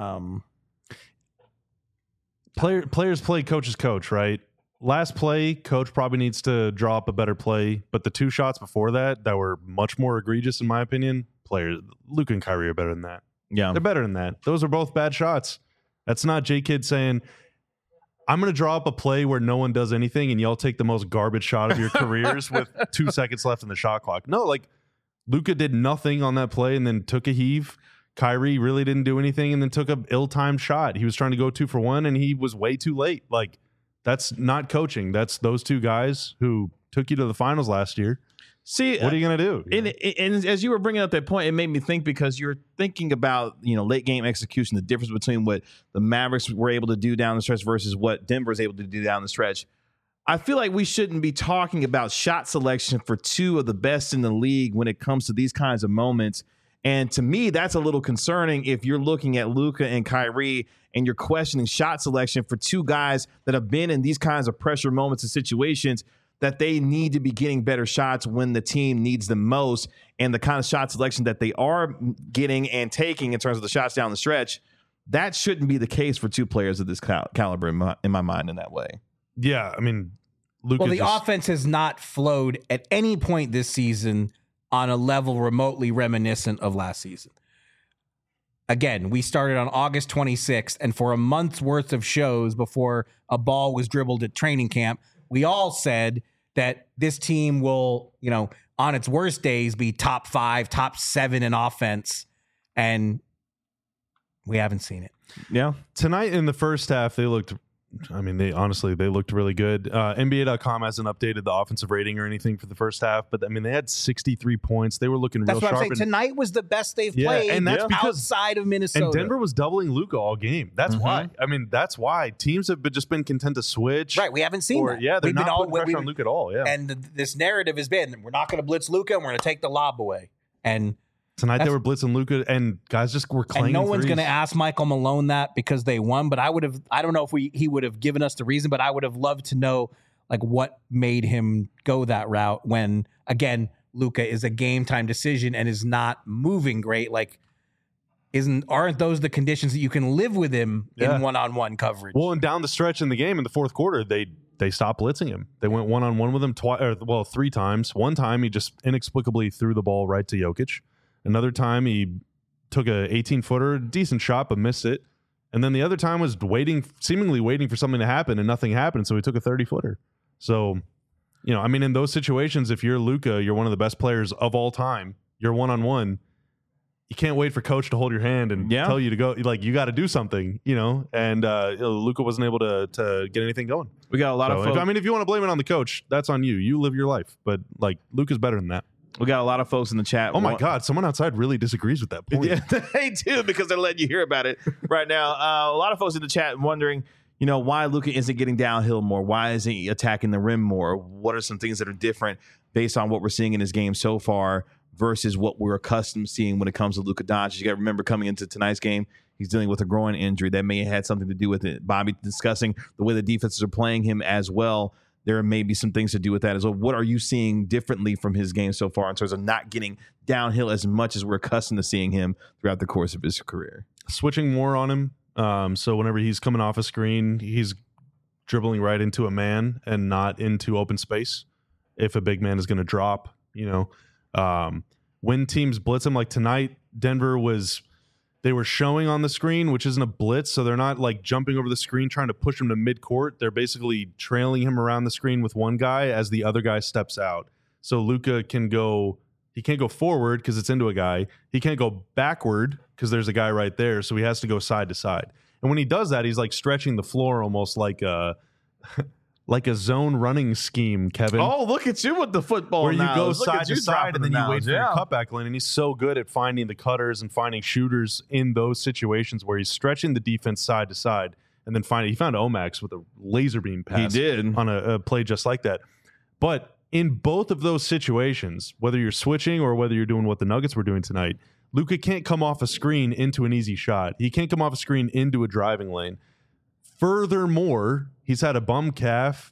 players play coach's coach, right? Last play, coach probably needs to draw up a better play, but the 2 shots before that were much more egregious in my opinion. Luka and Kyrie are better than that. Yeah, they're better than that. Those are both bad shots. That's not J-Kidd saying, I'm going to draw up a play where no one does anything and y'all take the most garbage shot of your careers with 2 seconds left in the shot clock. No, like Luka did nothing on that play and then took a heave. Kyrie really didn't do anything and then took an ill-timed shot. He was trying to go 2 for 1 and he was way too late. Like, that's not coaching. That's those 2 guys who took you to the finals last year. See, what are you going to do? And as you were bringing up that point, it made me think because you're thinking about, late game execution, the difference between what the Mavericks were able to do down the stretch versus what Denver is able to do down the stretch. I feel like we shouldn't be talking about shot selection for 2 of the best in the league when it comes to these kinds of moments. And to me, that's a little concerning if you're looking at Luka and Kyrie and you're questioning shot selection for 2 guys that have been in these kinds of pressure moments and situations that they need to be getting better shots when the team needs them most. And the kind of shot selection that they are getting and taking in terms of the shots down the stretch, that shouldn't be the case for 2 players of this caliber in my mind in that way. Yeah, I mean, Luka the offense has not flowed at any point this season on a level remotely reminiscent of last season. Again, we started on August 26th, and for a month's worth of shows before a ball was dribbled at training camp, we all said that this team will, on its worst days, be top 5, top 7 in offense, and we haven't seen it. Yeah. Tonight in the first half, they looked really good. NBA.com hasn't updated the offensive rating or anything for the first half, but they had 63 points. They were looking real sharp. That's what I'm saying. Tonight was the best they've played, and that's because outside of Minnesota. And Denver was doubling Luka all game. That's why. That's why teams have just been content to switch. Right. We haven't seen that. Yeah, they're not putting pressure on Luka at all. Yeah. And this narrative has been, we're not going to blitz Luka and we're going to take the lob away. And tonight they were blitzing Luka, and guys just were clanging. And no one's going to ask Michael Malone that because they won. But I don't know if he would have given us the reason, but I would have loved to know what made him go that route when, again, Luka is a game time decision and is not moving great. Aren't those the conditions that you can live with him in one-on-one coverage? Well, and down the stretch in the game in the fourth quarter, they stopped blitzing him. They went one-on-one with him 3 times. One time he just inexplicably threw the ball right to Jokic. Another time he took a 18-footer, decent shot, but missed it. And then the other time was seemingly waiting for something to happen, and nothing happened, so he took a 30-footer. So, in those situations, if you're Luka, you're one of the best players of all time, you're one-on-one, you can't wait for coach to hold your hand and tell you to go. You got to do something, and Luka wasn't able to get anything going. We got a lot of folks. If you want to blame it on the coach, that's on you. You live your life. But, Luka's better than that. We got a lot of folks in the chat. Oh, my God. Someone outside really disagrees with that point. Yeah, they do because they're letting you hear about it right now. A lot of folks in the chat wondering, why Luka isn't getting downhill more. Why isn't he attacking the rim more? What are some things that are different based on what we're seeing in his game so far versus what we're accustomed to seeing when it comes to Luka Doncic? You got to remember coming into tonight's game, he's dealing with a groin injury. That may have had something to do with it. Bobby discussing the way the defenses are playing him as well. There may be some things to do with that as well. What are you seeing differently from his game so far in terms of not getting downhill as much as we're accustomed to seeing him throughout the course of his career? Switching more on him. So whenever he's coming off a screen, he's dribbling right into a man and not into open space. If a big man is going to drop, when teams blitz him, like tonight, Denver they were showing on the screen, which isn't a blitz, so they're not jumping over the screen trying to push him to midcourt. They're basically trailing him around the screen with one guy as the other guy steps out. So Luka can't go forward because it's into a guy. He can't go backward because there's a guy right there, so he has to go side to side. And when he does that, he's stretching the floor almost like a zone running scheme, Kevin. Oh, look at you with the football. Where you go side to side and then you wait for your cutback lane. And he's so good at finding the cutters and finding shooters in those situations where he's stretching the defense side to side. And then he found Omax with a laser beam pass. He did. On a play just like that. But in both of those situations, whether you're switching or whether you're doing what the Nuggets were doing tonight, Luka can't come off a screen into an easy shot. He can't come off a screen into a driving lane. Furthermore, he's had a bum calf.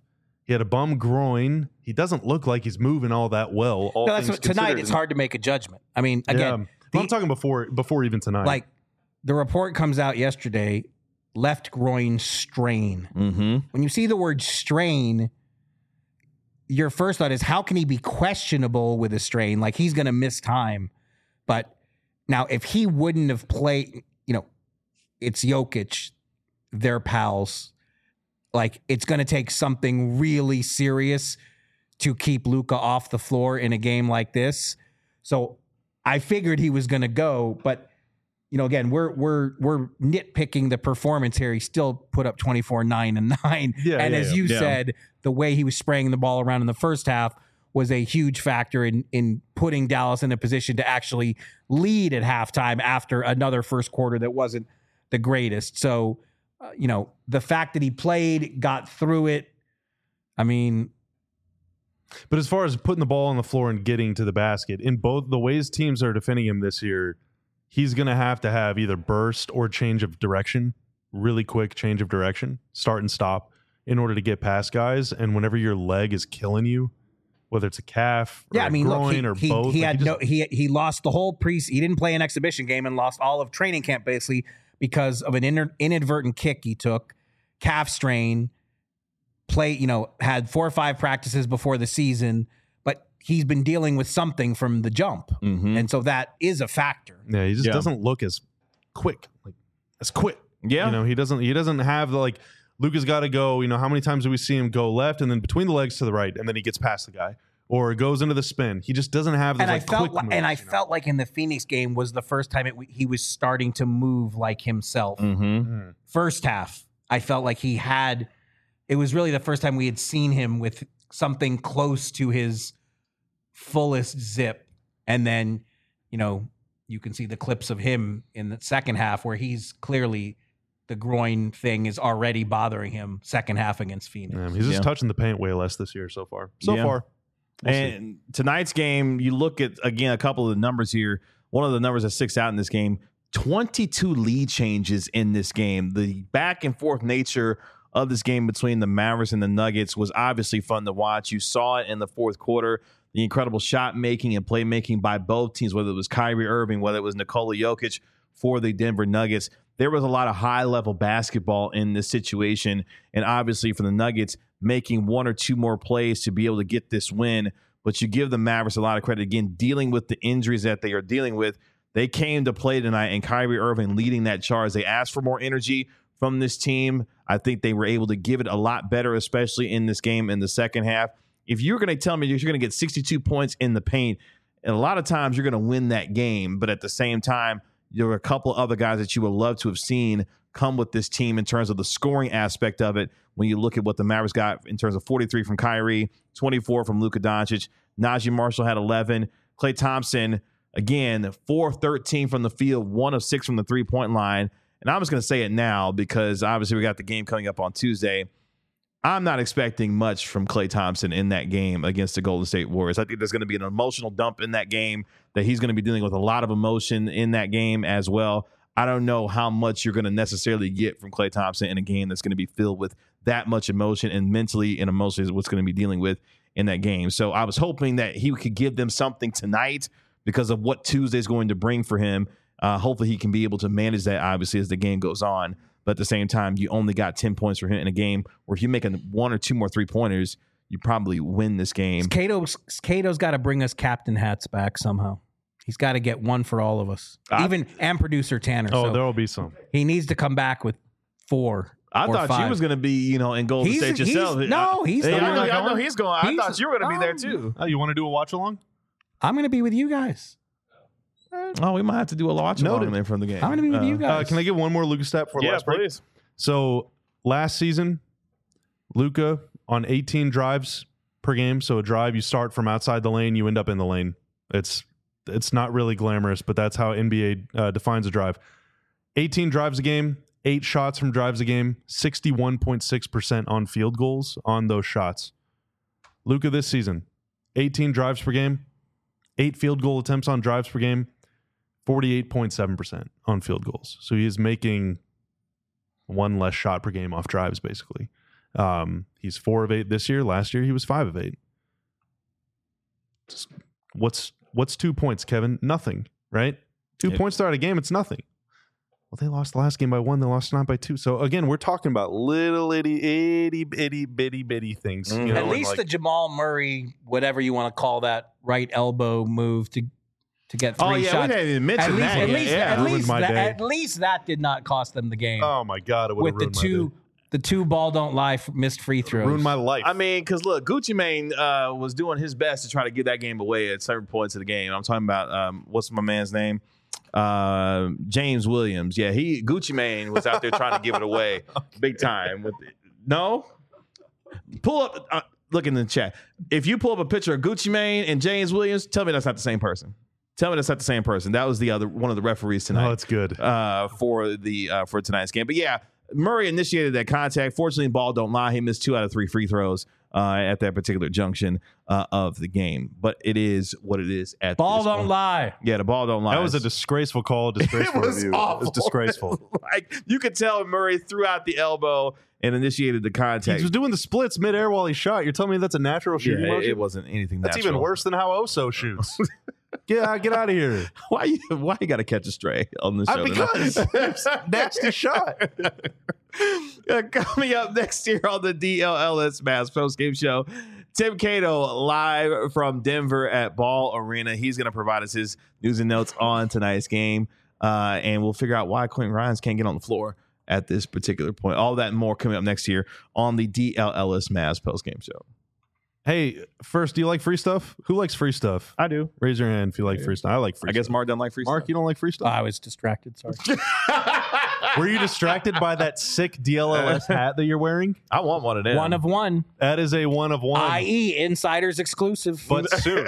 He had a bum groin. He doesn't look like he's moving all that well. All things tonight considered. it's hard to make a judgment. I mean, again, I'm talking before even tonight. like the report comes out yesterday, left groin strain. Mm-hmm. When you see the word strain, your first thought is, how can he be questionable with a strain? Like, he's going to miss time. But now, if he wouldn't have played, it's Jokic, they're pals. Like, it's going to take something really serious to keep Luka off the floor in a game like this. So I figured he was going to go, but again, we're nitpicking the performance here. He still put up 24, 9, and 9. And as you said, the way he was spraying the ball around in the first half was a huge factor in putting Dallas in a position to actually lead at halftime after another first quarter that wasn't the greatest. So, the fact that he played, got through it, I mean. But as far as putting the ball on the floor and getting to the basket, in both the ways teams are defending him this year, he's going to have either burst or change of direction, really quick change of direction, start and stop, in order to get past guys. And whenever your leg is killing you, whether it's a calf or a groin or both. He lost the whole he didn't play an exhibition game and lost all of training camp basically because of an inadvertent kick he took, calf strain, had 4 or 5 practices before the season, but he's been dealing with something from the jump. Mm-hmm. And so that is a factor. Yeah, he just doesn't look as quick. Yeah. He doesn't have the Luka's got to go, how many times do we see him go left and then between the legs to the right and then he gets past the guy or goes into the spin. He just doesn't have those quick moves. And I felt like in the Phoenix game was the first time he was starting to move like himself. Mm-hmm. First half, I felt like it was really the first time we had seen him with something close to his fullest zip. And then, you can see the clips of him in the second half where he's clearly the groin thing is already bothering him second half against Phoenix. Yeah, he's just touching the paint way less this year so far. And tonight's game, you look at, again, a couple of the numbers here. One of the numbers that sticks out in this game, 22 lead changes in this game. The back and forth nature of this game between the Mavericks and the Nuggets was obviously fun to watch. You saw it in the fourth quarter, the incredible shot making and playmaking by both teams, whether it was Kyrie Irving, whether it was Nikola Jokic for the Denver Nuggets. There was a lot of high-level basketball in this situation, and obviously for the Nuggets, making 1 or 2 more plays to be able to get this win. But you give the Mavericks a lot of credit. Again, dealing with the injuries that they are dealing with, they came to play tonight, and Kyrie Irving leading that charge. They asked for more energy from this team. I think they were able to give it a lot better, especially in this game in the second half. If you're going to tell me you're going to get 62 points in the paint, and a lot of times you're going to win that game, but at the same time, there were a couple other guys that you would love to have seen come with this team in terms of the scoring aspect of it. When you look at what the Mavericks got in terms of 43 from Kyrie, 24 from Luka Doncic, Najee Marshall had 11. Klay Thompson, again, 4 of 13 from the field, 1 of 6 from the three-point line. And I'm just going to say it now because obviously we got the game coming up on Tuesday. I'm not expecting much from Klay Thompson in that game against the Golden State Warriors. I think there's going to be an emotional dump in that game, that he's going to be dealing with a lot of emotion in that game as well. I don't know how much you're going to necessarily get from Klay Thompson in a game that's going to be filled with that much emotion, and mentally and emotionally is what's going to be dealing with in that game. So I was hoping that he could give them something tonight because of what Tuesday is going to bring for him. Hopefully he can be able to manage that, obviously, as the game goes on. But at the same time, you only got 10 points for him in a game where if you make 1 or 2 more three-pointers, you probably win this game. Cato's got to bring us captain hats back somehow. He's got to get one for all of us, and producer Tanner. Oh, so there will be some. He needs to come back with 4. I thought 5. you was going to be, in Golden State yourself. I know he's going. I thought you were going to be there too. Oh, you want to do a watch along? I'm going to be with you guys. Oh, we might have to do a watch along then from the game. I'm going to be with you guys. Can I get one more Luka stat for last break? Please. So last season, Luka on 18 drives per game. So a drive, you start from outside the lane, you end up in the lane. It's not really glamorous, but that's how NBA defines a drive. 18 drives a game, 8 shots from drives a game, 61.6% on field goals on those shots. Luka this season, 18 drives per game, 8 field goal attempts on drives per game, 48.7% on field goals. So he is making 1 less shot per game off drives, basically. He's 4 of 8 this year. Last year he was 5 of 8. What's 2 points, Kevin? Nothing, right? 2 points to start a game, it's nothing. Well, they lost the last game by 1. They lost tonight by 2. So again, we're talking about little itty bitty things. Mm-hmm. At least the Jamal Murray, whatever you want to call that, right elbow move to get 3 shots. We didn't even mention that. At least that did not cost them the game. Oh my God, it would have ruined my day. The 2 ball don't lie missed free throws. Ruined my life. I mean, because look, Gucci Mane was doing his best to try to get that game away at certain points of the game. I'm talking about what's my man's name? James Williams. Yeah, Gucci Mane was out there trying to give it away big time. No? Pull up, look in the chat. If you pull up a picture of Gucci Mane and James Williams, tell me that's not the same person. Tell me that's not the same person. That was the other one of the referees tonight. Oh, that's good. For tonight's game. But yeah, Murray initiated that contact. Fortunately, ball don't lie. He missed 2 out of 3 free throws at that particular junction of the game. But it is what it is. At ball don't lie. Yeah, the ball don't lie. That was a disgraceful call. Disgraceful review. It was disgraceful. Like you could tell Murray threw out the elbow and initiated the contact. He was doing the splits midair while he shot. You're telling me that's a natural shooting motion? It wasn't anything. That's natural. even worse than how Oso shoots. Get out of here. Why you got to catch a stray on the show? Because nasty shot. Coming up next year on the DLLS Mavs postgame show, Tim Cato live from Denver at Ball Arena. He's going to provide us his news and notes on tonight's game, and we'll figure out why Quentin Grimes can't get on the floor at this particular point. All that and more coming up next year on the DLLS Mavs postgame show. Hey, first, do you like free stuff? Who likes free stuff? I do. Raise your hand if you like free stuff. I like free stuff. I guess Mark doesn't like free stuff. Mark, you don't like free stuff? I was distracted. Sorry. Were you distracted by that sick DLLS hat that you're wearing? I want one of them. 1 of 1. That is a 1 of 1. I.e. Insiders exclusive. But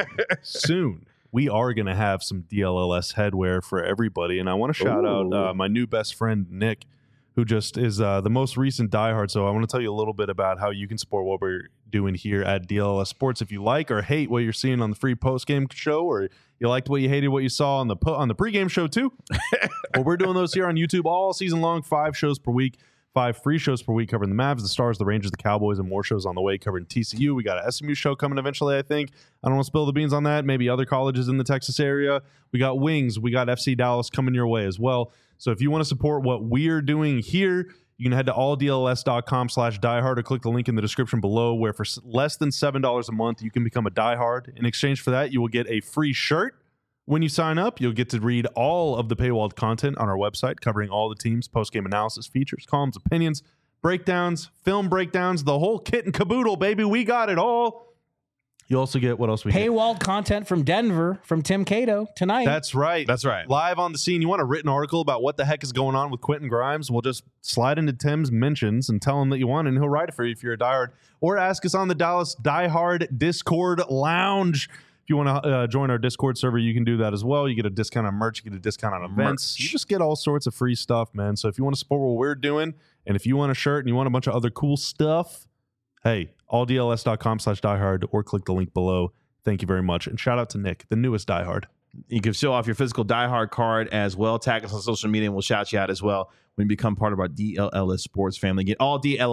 soon, we are going to have some DLLS headwear for everybody. And I want to shout out my new best friend, Nick, who just is the most recent diehard. So I want to tell you a little bit about how you can support what we're doing here at DLLS Sports. If you like or hate what you're seeing on the free post-game show, or you liked what you hated what you saw on the pregame show too, well, we're doing those here on YouTube all season long, 5 shows per week, 5 free shows per week covering the Mavs, the Stars, the Rangers, the Cowboys, and more shows on the way covering TCU. We got an SMU show coming eventually, I think. I don't want to spill the beans on that. Maybe other colleges in the Texas area. We got Wings. We got FC Dallas coming your way as well. So if you want to support what we're doing here, you can head to alldlls.com/diehard or click the link in the description below, where for less than $7 a month, you can become a diehard. In exchange for that, you will get a free shirt. When you sign up, you'll get to read all of the paywalled content on our website, covering all the teams, post-game analysis, features, columns, opinions, breakdowns, film breakdowns, the whole kit and caboodle, baby. We got it all. You also get what else we get? Paywalled content from Denver from Tim Cato tonight. That's right. That's right. Live on the scene. You want a written article about what the heck is going on with Quentin Grimes? We'll just slide into Tim's mentions and tell him that you want, and he'll write it for you if you're a diehard. Or ask us on the Dallas Diehard Discord Lounge. If you want to join our Discord server, you can do that as well. You get a discount on merch. You get a discount on events. You just get all sorts of free stuff, man. So if you want to support what we're doing, and if you want a shirt and you want a bunch of other cool stuff, hey, alldls.com/diehard or click the link below. Thank you very much. And shout out to Nick, the newest diehard. You can show off your physical diehard card as well. Tag us on social media and we'll shout you out as well when you become part of our DLLS sports family. Get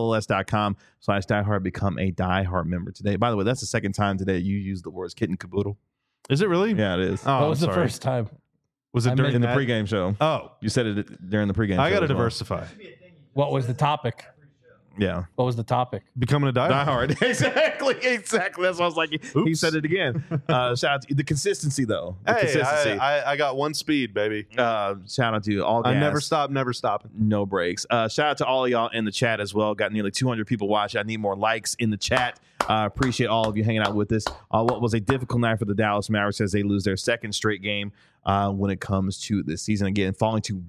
alldlls.com/diehard. Become a diehard member today. By the way, that's the second time today you used the words kit and caboodle. Is it really? Yeah, it is. Oh, what was the first time? Was it during in the pregame show? Oh, you said it during the pregame show. I got to as well. diversify. What was the topic? Yeah. What was the topic? Becoming a diehard. Exactly. That's why I was like, he said it again. Shout out to the consistency, though. The consistency. I got one speed, baby. Shout out to all gas. I never stop, never stopping. No breaks. Shout out to all of y'all in the chat as well. Got nearly 200 people watching. I need more likes in the chat. Appreciate all of you hanging out with us. What was a difficult night for the Dallas Mavericks as they lose their second straight game when it comes to this season. Again, falling to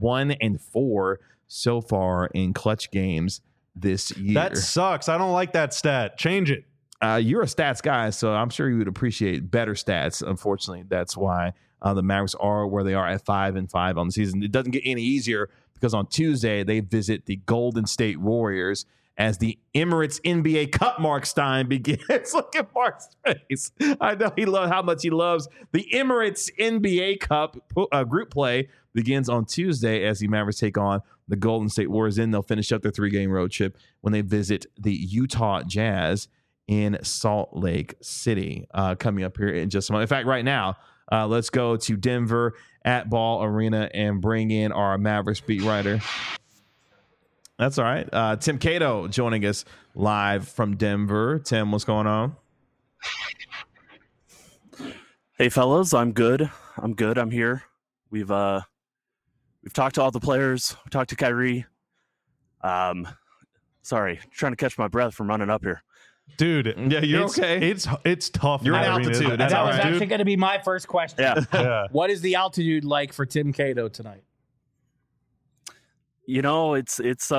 1-4 so far in clutch games this year. That sucks. I don't like that stat. Change it. You're a stats guy, so I'm sure you would appreciate better stats. Unfortunately, that's why the Mavericks are where they are at 5-5 on the season. It doesn't get any easier because on Tuesday they visit the Golden State Warriors as the Emirates NBA Cup Mark Stein begins. Look at Mark's face. I know how much he loves the Emirates NBA Cup group play begins on Tuesday as the Mavericks take on the Golden State Warriors. Then they'll finish up their 3-game road trip when they visit the Utah Jazz in Salt Lake City coming up here in just a moment. In fact, right now, let's go to Denver at Ball Arena and bring in our Mavericks beat writer. That's all right. Tim Cato joining us live from Denver. Tim, what's going on? Hey, fellas. I'm good. I'm here. We've talked to all the players. We talked to Kyrie. Sorry, trying to catch my breath from running up here. Dude, yeah, you're okay. It's tough. You're in altitude. That was actually going to be my first question. Yeah. What is the altitude like for Tim Cato tonight? You know, it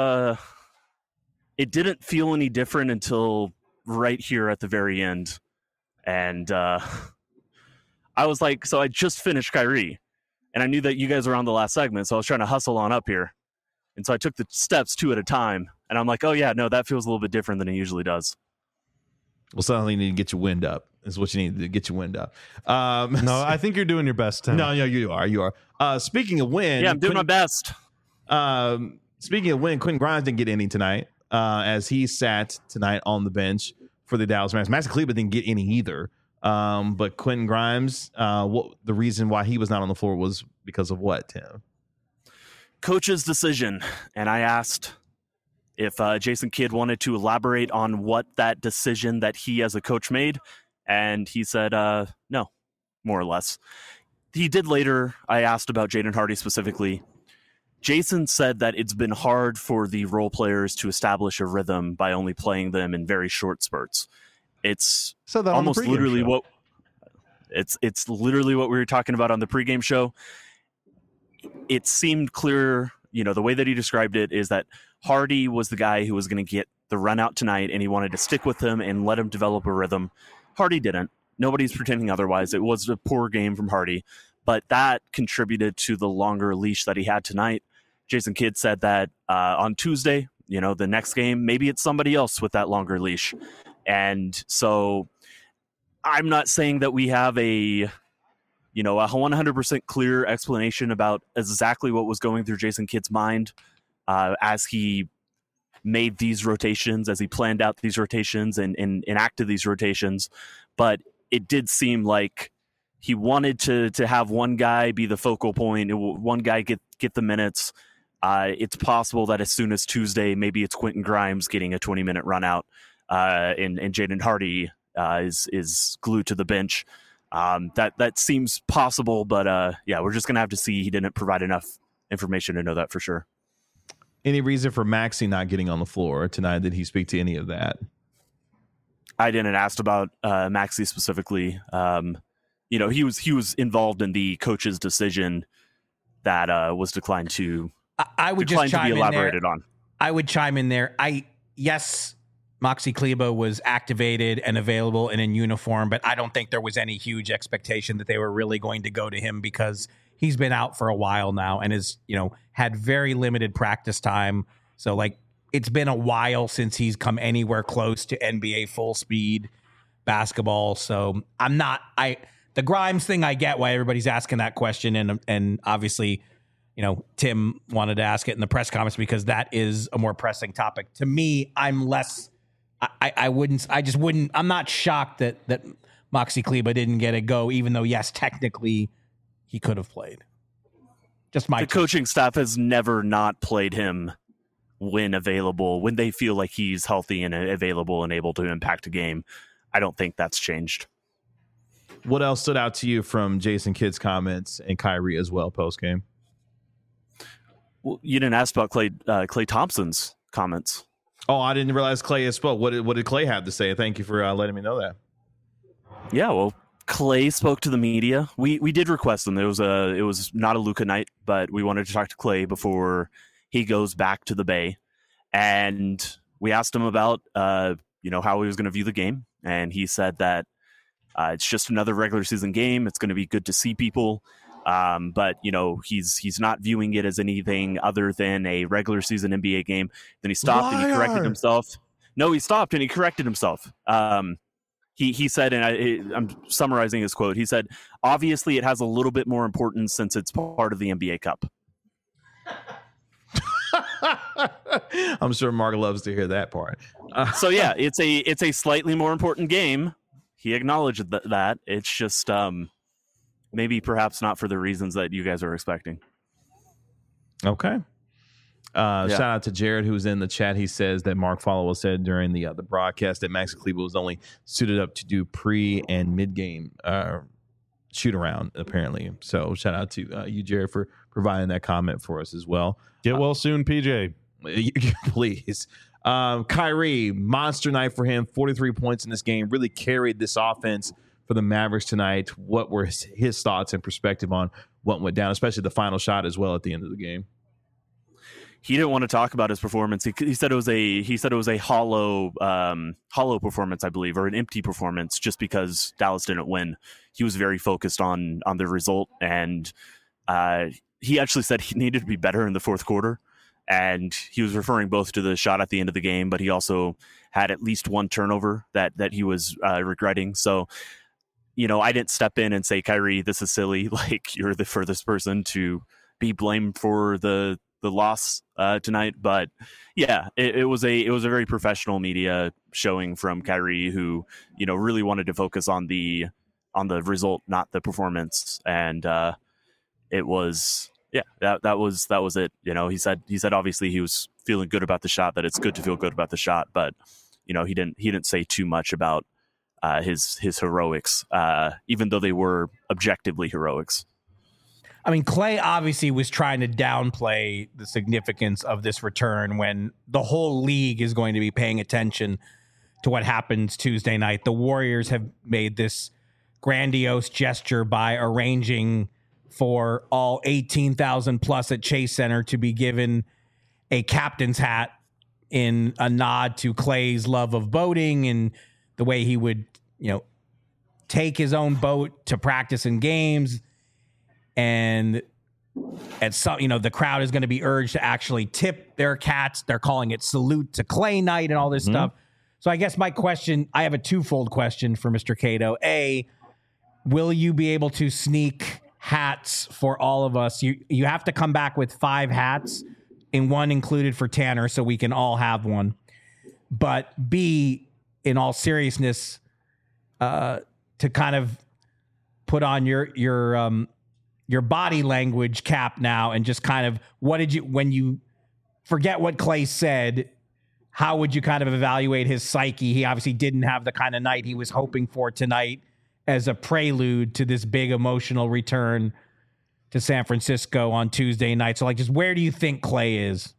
didn't feel any different until right here at the very end. And I was like, so I just finished Kyrie, and I knew that you guys were on the last segment, so I was trying to hustle on up here. And so I took the steps 2 at a time, and I'm like, oh yeah, no, that feels a little bit different than it usually does. Well, suddenly you need to get your wind up. Is what you need to get your wind up. No, I think you're doing your best, Tim. No, you are. You are. Speaking of wind, Yeah, I'm doing my best. Speaking of wind, Quentin Grimes didn't get any tonight, as he sat tonight on the bench for the Dallas Mavericks. Maxi Kleber didn't get any either. But Quentin Grimes, the reason why he was not on the floor was because of what, Tim? Coach's decision. And I asked if Jason Kidd wanted to elaborate on what that decision that he as a coach made. And he said, no, more or less. He did later. I asked about Jaden Hardy specifically. Jason said that it's been hard for the role players to establish a rhythm by only playing them in very short spurts. It's almost literally what it's literally what we were talking about on the pregame show. It seemed clear, the way that he described it is that Hardy was the guy who was going to get the run out tonight, and he wanted to stick with him and let him develop a rhythm. Hardy didn't. Nobody's pretending otherwise. It was a poor game from Hardy, but that contributed to the longer leash that he had tonight. Jason Kidd said that on Tuesday, the next game, maybe it's somebody else with that longer leash. And so I'm not saying that we have a 100% clear explanation about exactly what was going through Jason Kidd's mind as he made these rotations, as he planned out these rotations and enacted these rotations. But it did seem like he wanted to have one guy be the focal point, one guy get the minutes. It's possible that as soon as Tuesday, maybe it's Quentin Grimes getting a 20-minute run out, and Jaden Hardy is glued to the bench. That seems possible, but we're just gonna have to see. He didn't provide enough information to know that for sure. Any reason for Maxey not getting on the floor tonight? Did he speak to any of that? I didn't ask about Maxey specifically. He was involved in the coach's decision that was declined to. I would just chime to be elaborated on. I would chime in there. Yes, Maxi Kleber was activated and available and in uniform, but I don't think there was any huge expectation that they were really going to go to him because he's been out for a while now and is, had very limited practice time. So it's been a while since he's come anywhere close to NBA full speed basketball. So the Grimes thing, I get why everybody's asking that question. And obviously, Tim wanted to ask it in the press conference because that is a more pressing topic. To me, I'm not shocked that Maxi Kleber didn't get a go, even though, yes, technically he could have played. Just the coaching staff has never not played him when available, when they feel like he's healthy and available and able to impact a game. I don't think that's changed. What else stood out to you from Jason Kidd's comments and Kyrie as well post game? Well, you didn't ask about Klay Thompson's comments. Oh, I didn't realize Klay had spoke. What did Klay have to say? Thank you for letting me know that. Yeah, well, Klay spoke to the media. We did request him. It was not a Luka night, but we wanted to talk to Klay before he goes back to the Bay, and we asked him about how he was going to view the game, and he said that it's just another regular season game. It's going to be good to see people. But he's not viewing it as anything other than a regular season NBA game. Then he stopped and he corrected himself. No, he stopped and he corrected himself. He said, and I'm summarizing his quote. He said, "Obviously, it has a little bit more importance since it's part of the NBA Cup." I'm sure Mark loves to hear that part. So yeah, it's a slightly more important game. He acknowledged that. It's just maybe perhaps not for the reasons that you guys are expecting. Okay. Shout out to Jared, who's in the chat. He says that Mark Followill said during the broadcast that Maxi Kleber was only suited up to do pre and mid game shoot around, apparently. So shout out to you, Jared, for providing that comment for us as well. Get well soon, PJ. Please. Kyrie, monster night for him. 43 points in this game. Really carried this offense for the Mavericks tonight. What were his thoughts and perspective on what went down, especially the final shot as well at the end of the game? He didn't want to talk about his performance. He said it was a hollow performance, I believe, or an empty performance, just because Dallas didn't win. He was very focused on the result, and he actually said he needed to be better in the fourth quarter. And he was referring both to the shot at the end of the game, but he also had at least one turnover that he was regretting. So, I didn't step in and say, Kyrie, this is silly. Like, you're the furthest person to be blamed for the loss tonight. But yeah, it was a very professional media showing from Kyrie, who really wanted to focus on the result, not the performance. And it was that was it. He said obviously he was feeling good about the shot, that it's good to feel good about the shot, but he didn't say too much about his heroics, even though they were objectively heroics. I mean, Klay obviously was trying to downplay the significance of this return when the whole league is going to be paying attention to what happens Tuesday night. The Warriors have made this grandiose gesture by arranging for all 18,000 plus at Chase Center to be given a captain's hat in a nod to Klay's love of boating and the way he would, take his own boat to practice in games. And at some, the crowd is going to be urged to actually tip their cats. They're calling it Salute to Klay Night and all this stuff. So I guess I have a twofold question for Mr. Cato. A, will you be able to sneak hats for all of us? You have to come back with 5 hats, and one included for Tanner, so we can all have one. But B, in all seriousness, to kind of put on your body language cap now, and just kind of when you forget what Klay said, how would you kind of evaluate his psyche? He obviously didn't have the kind of night he was hoping for tonight as a prelude to this big emotional return to San Francisco on Tuesday night. So just where do you think Klay is?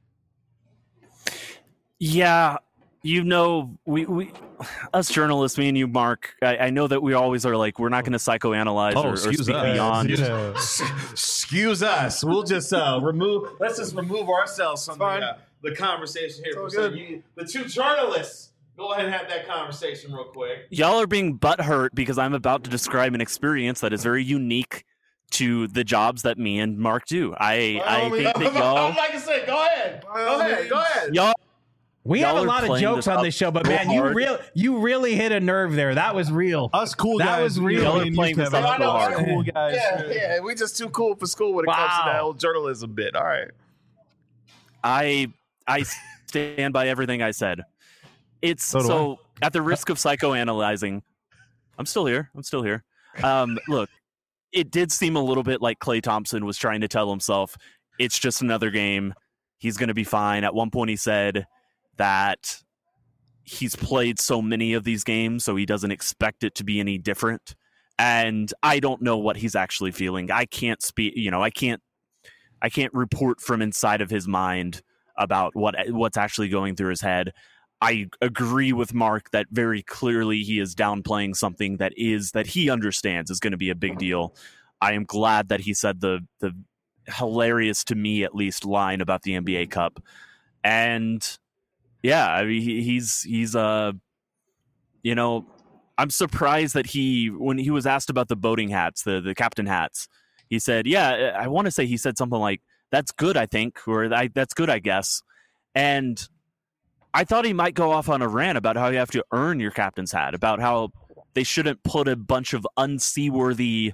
Yeah. We us journalists, me and you, Mark, I know that we always are like, we're not going to psychoanalyze or speak beyond. Excuse us. We'll just let's just remove ourselves from the conversation here. So the two journalists, go ahead and have that conversation real quick. Y'all are being butthurt because I'm about to describe an experience that is very unique to the jobs that me and Mark do. I think that y'all... Like I said, go ahead. Y'all... We have a lot of jokes on this show, but man, you really hit a nerve there. That was real. Us cool guys. That was real. Y'all are playing this up so hard. Cool guys. Yeah, we just too cool for school when it comes to that old journalism bit. All right. I stand by everything I said. So at the risk of psychoanalyzing, I'm still here. Look, it did seem a little bit like Klay Thompson was trying to tell himself, it's just another game. He's going to be fine. At one point he said that he's played so many of these games, so he doesn't expect it to be any different. And I don't know what he's actually feeling. I can't speak, I can't report from inside of his mind about what's actually going through his head. I agree with Mark that very clearly he is downplaying something that he understands is going to be a big deal. I am glad that he said the hilarious, to me at least, line about the NBA Cup. And yeah, I mean, he's I'm surprised that when he was asked about the boating hats, the captain hats, he said, yeah, I want to say he said something like, that's good, I think, or that's good, I guess. And I thought he might go off on a rant about how you have to earn your captain's hat, about how they shouldn't put a bunch of unseaworthy,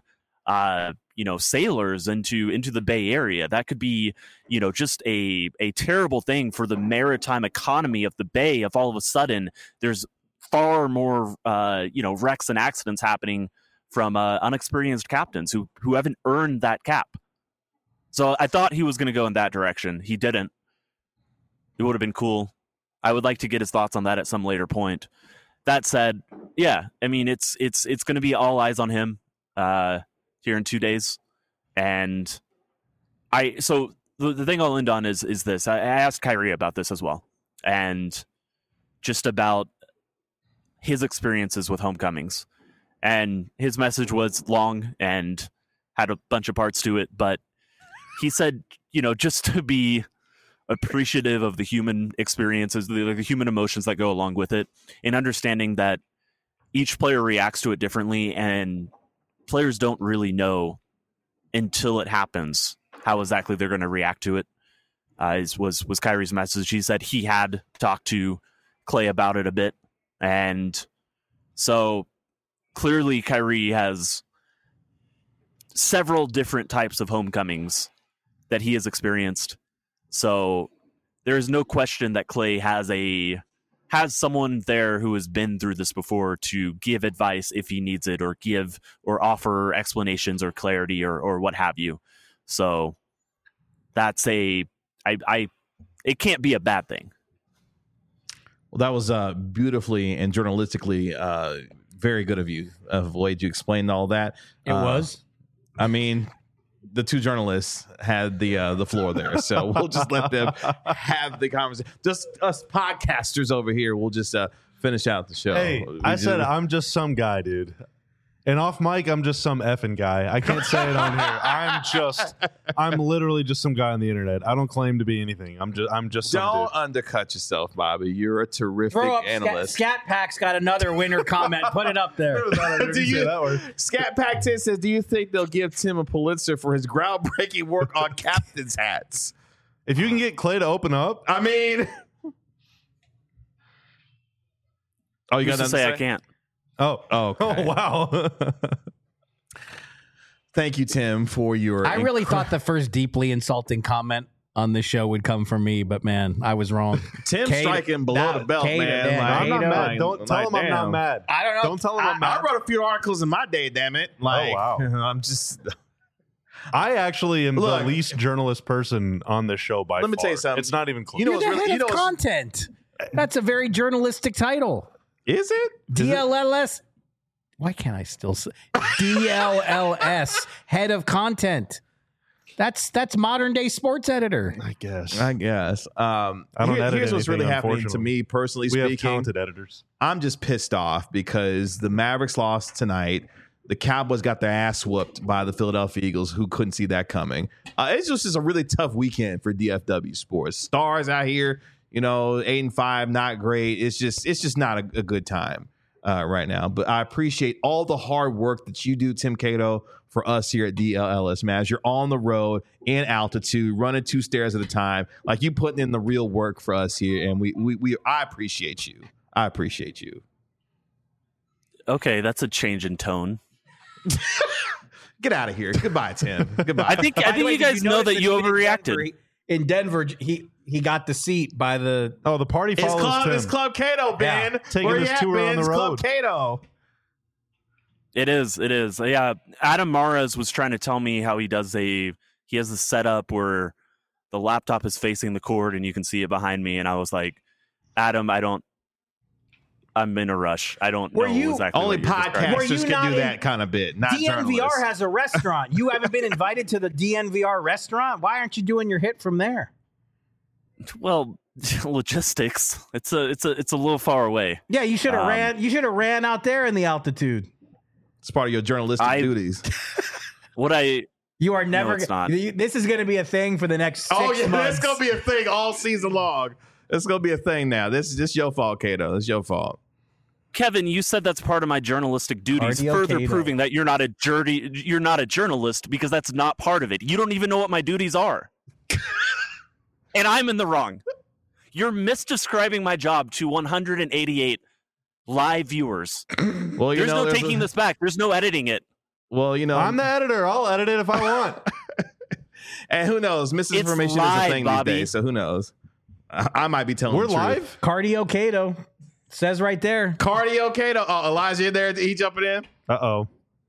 sailors into the Bay Area. That could be, just a terrible thing for the maritime economy of the Bay. If all of a sudden there's far more, wrecks and accidents happening from unexperienced captains who haven't earned that cap. So I thought he was going to go in that direction. He didn't. It would have been cool. I would like to get his thoughts on that at some later point. That said, yeah, I mean, it's going to be all eyes on him here in 2 days. And so the thing I'll end on is this. I asked Kyrie about this as well. And just about his experiences with homecomings. And his message was long and had a bunch of parts to it, but he said, just to be appreciative of the human experiences, the human emotions that go along with it, and understanding that each player reacts to it differently, and players don't really know until it happens how exactly they're going to react to it. Was Kyrie's message. He said he had talked to Klay about it a bit, and so clearly Kyrie has several different types of homecomings that he has experienced. So there is no question that Klay has someone there who has been through this before to give advice if he needs it, or give or offer explanations or clarity or what have you. So that's it can't be a bad thing. Well, that was beautifully and journalistically very good of you, of the way you explained all that. It was. I mean, the two journalists had the floor there, so we'll just let them have the conversation. Just us podcasters over here, we'll just finish out the show. Hey, said I'm just some guy, dude. And off mic, I'm just some effing guy. I can't say it on here. I'm literally just some guy on the internet. I don't claim to be anything. I'm just some Don't dude. Undercut yourself, Bobby. You're a terrific Throw up analyst. Scat Pack's got another winner comment. Put it up there. Scat Pack 10 says, do you think they'll give Tim a Pulitzer for his groundbreaking work on captain's hats? If you can get Klay to open up, I mean, oh, you got to say I can't. Oh, okay. Oh, wow. Thank you, Tim, for your. I really thought the first deeply insulting comment on this show would come from me, but man, I was wrong. Tim striking below the belt, man. I'm not mad. Don't tell him I'm not mad. I don't know. Don't tell him I'm mad. I wrote a few articles in my day, damn it. Like, wow. I'm just. I actually am the least journalist person on this show by far. Let me tell you something. It's not even close. You're the head of content. That's a very journalistic title. Is it? DLLS. Why can't I still say DLLS, head of content? That's modern day sports editor. I guess. I don't edit here's what's really happening to me personally speaking. We have talented editors. I'm just pissed off because the Mavericks lost tonight. The Cowboys got their ass whooped by the Philadelphia Eagles, who couldn't see that coming. It's just a really tough weekend for DFW sports. Stars out here, 8-5, not great. It's just not a good time right now. But I appreciate all the hard work that you do, Tim Cato, for us here at DLLS Mavs. You're on the road in altitude, running 2 stairs at a time. Like, you putting in the real work for us here, and I appreciate you. I appreciate you. Okay, that's a change in tone. Get out of here. Goodbye, Tim. Goodbye. I think you guys know that you overreacted. In Denver, he got the seat by the the party follows Tim. It's Club Cato, Ben. Taking his tour on the road. Club Cato. It is. Yeah, Adam Mares was trying to tell me how he has a setup where the laptop is facing the cord and you can see it behind me, and I was like, Adam, I'm in a rush. I don't know exactly. Only podcasters can do that kind of bit. Not DNVR journalists. has a restaurant. You haven't been invited to the DNVR restaurant? Why aren't you doing your hit from there? Well, logistics. It's a little far away. Yeah, you should have ran. You should have ran out there in the altitude. It's part of your journalistic duties. You are never. No, it's not. This is going to be a thing for the next 6 months. It's going to be a thing all season long. It's going to be a thing now. This is just your fault, Cato. It's your fault. Kevin, you said that's part of my journalistic duties, further proving that you're not a journalist, because that's not part of it. You don't even know what my duties are. And I'm in the wrong. You're misdescribing my job to 188 live viewers. Well, there's no taking this back. There's no editing it. Well, I'm the editor. I'll edit it if I want. And who knows? Misinformation is a thing these days, so who knows? I might be telling. We're the truth. live. Cardio Cato says right there. Cardio Cato. Oh, Elijah, you there? He jumping in? Uh-oh.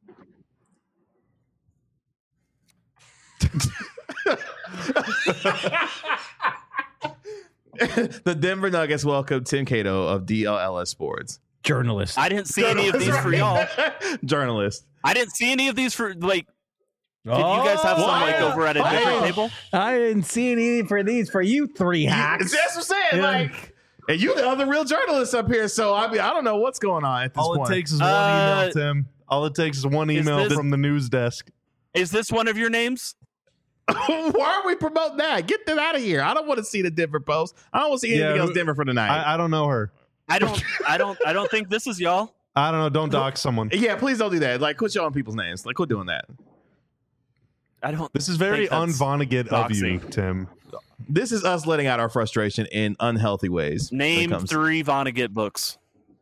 The Denver Nuggets welcome Tim Cato of DLLS Sports. Journalist. I didn't see any of these for y'all. Journalist. I didn't see any of these for, like, did you guys have some, like, over at a different table? I didn't see any for these for you three hacks. That's what I'm saying. Like, and you the other real journalists up here, so I don't know what's going on at this point. All it takes is one email, Tim. All it takes is one email from the news desk. Is this one of your names? Why are we promoting that? Get that out of here. I don't want to see the Denver Post. I don't want to see anything else Denver for tonight. I don't know her. I don't think this is y'all. I don't know. Don't dox someone. Yeah, please don't do that. Like, quit showing people's names. Like, quit doing that. This is very un-Vonnegut of you, Tim. This is us letting out our frustration in unhealthy ways. Name 3 Vonnegut books.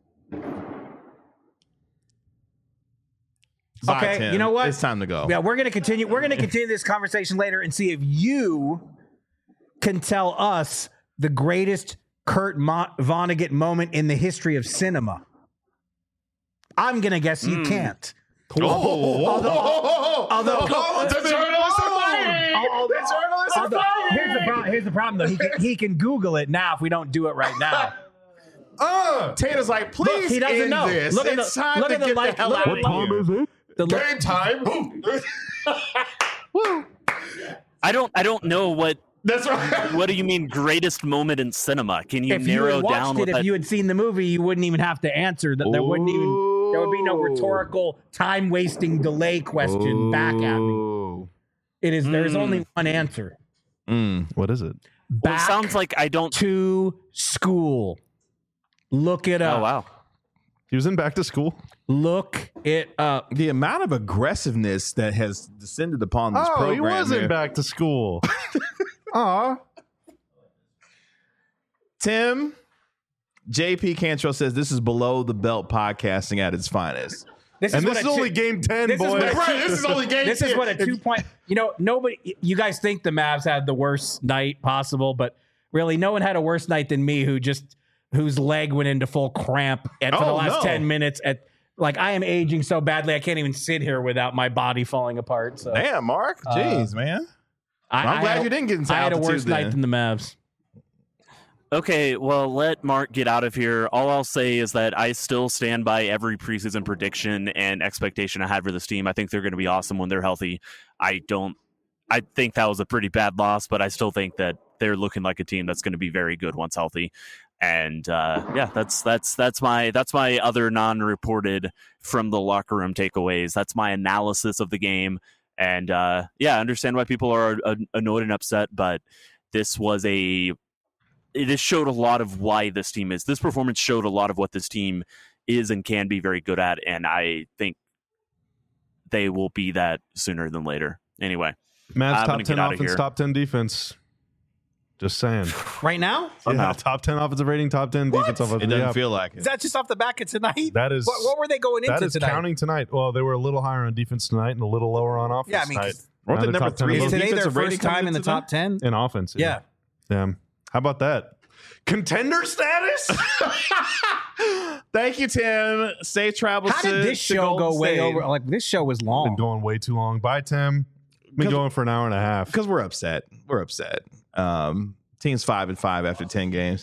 Bye, Okay, Tim. you know what? It's time to go. Yeah, we're gonna continue. We're gonna continue this conversation later and see if you can tell us the greatest Kurt Vonnegut moment in the history of cinema. I'm gonna guess you can't. Although here's the problem though. He can Google it now if we don't do it right now. Taylor's like, please. Look, he doesn't end know. This. Look at it's the time look to at the get light. the hell Look, out of here. Is it? Game time. I don't know what. That's right. What do you mean greatest moment in cinema? Can you if you narrow had watched down it, what if you had seen the movie, you wouldn't even have to answer that. There would be no rhetorical time wasting delay question back at me. It is there's only one answer. What is it? Well, it sounds like I don't to school. Look it up. Oh wow. He was in Back to School. Look it up. The amount of aggressiveness that has descended upon this program. He was in Back to School. Aw. Tim, JP Cantrell says this is below the belt podcasting at its finest. This And this is only game 10, boys. This is only game 10. This is what a 2-point. Nobody. You guys think the Mavs had the worst night possible, but really, no one had a worse night than me, whose leg went into full cramp for the last 10 minutes. I am aging so badly, I can't even sit here without my body falling apart. So. Damn, Mark. Jeez, man. I'm glad you didn't get into altitude. I had a worse night than the Mavs. Okay, well, let Mark get out of here. All I'll say is that I still stand by every preseason prediction and expectation I had for this team. I think they're going to be awesome when they're healthy. I think that was a pretty bad loss, but I still think that they're looking like a team that's going to be very good once healthy. And that's my other non-reported from the locker room takeaways. That's my analysis of the game. And I understand why people are annoyed and upset, but it showed a lot of why this team is. This performance showed a lot of what this team is and can be very good at, and I think they will be that sooner than later. Anyway, Mavs top 10 offense, top 10 defense. Just saying. Right now? Yeah, top 10 offensive rating, top 10 defense. It doesn't feel like it. Is that just off the back of tonight? That is. What were they going into tonight? That is counting tonight. Well, they were a little higher on defense tonight and a little lower on offense. Yeah, I mean, weren't they number 3? Is today their first time in the top 10? In offense. Yeah. Damn. How about that? Contender status? Thank you, Tim. Safe travels. How did this show go way over? Like, this show was long. Been going way too long. Bye, Tim. Been going for an hour and a half. Because we're upset. Team's 5-5 after 10 games.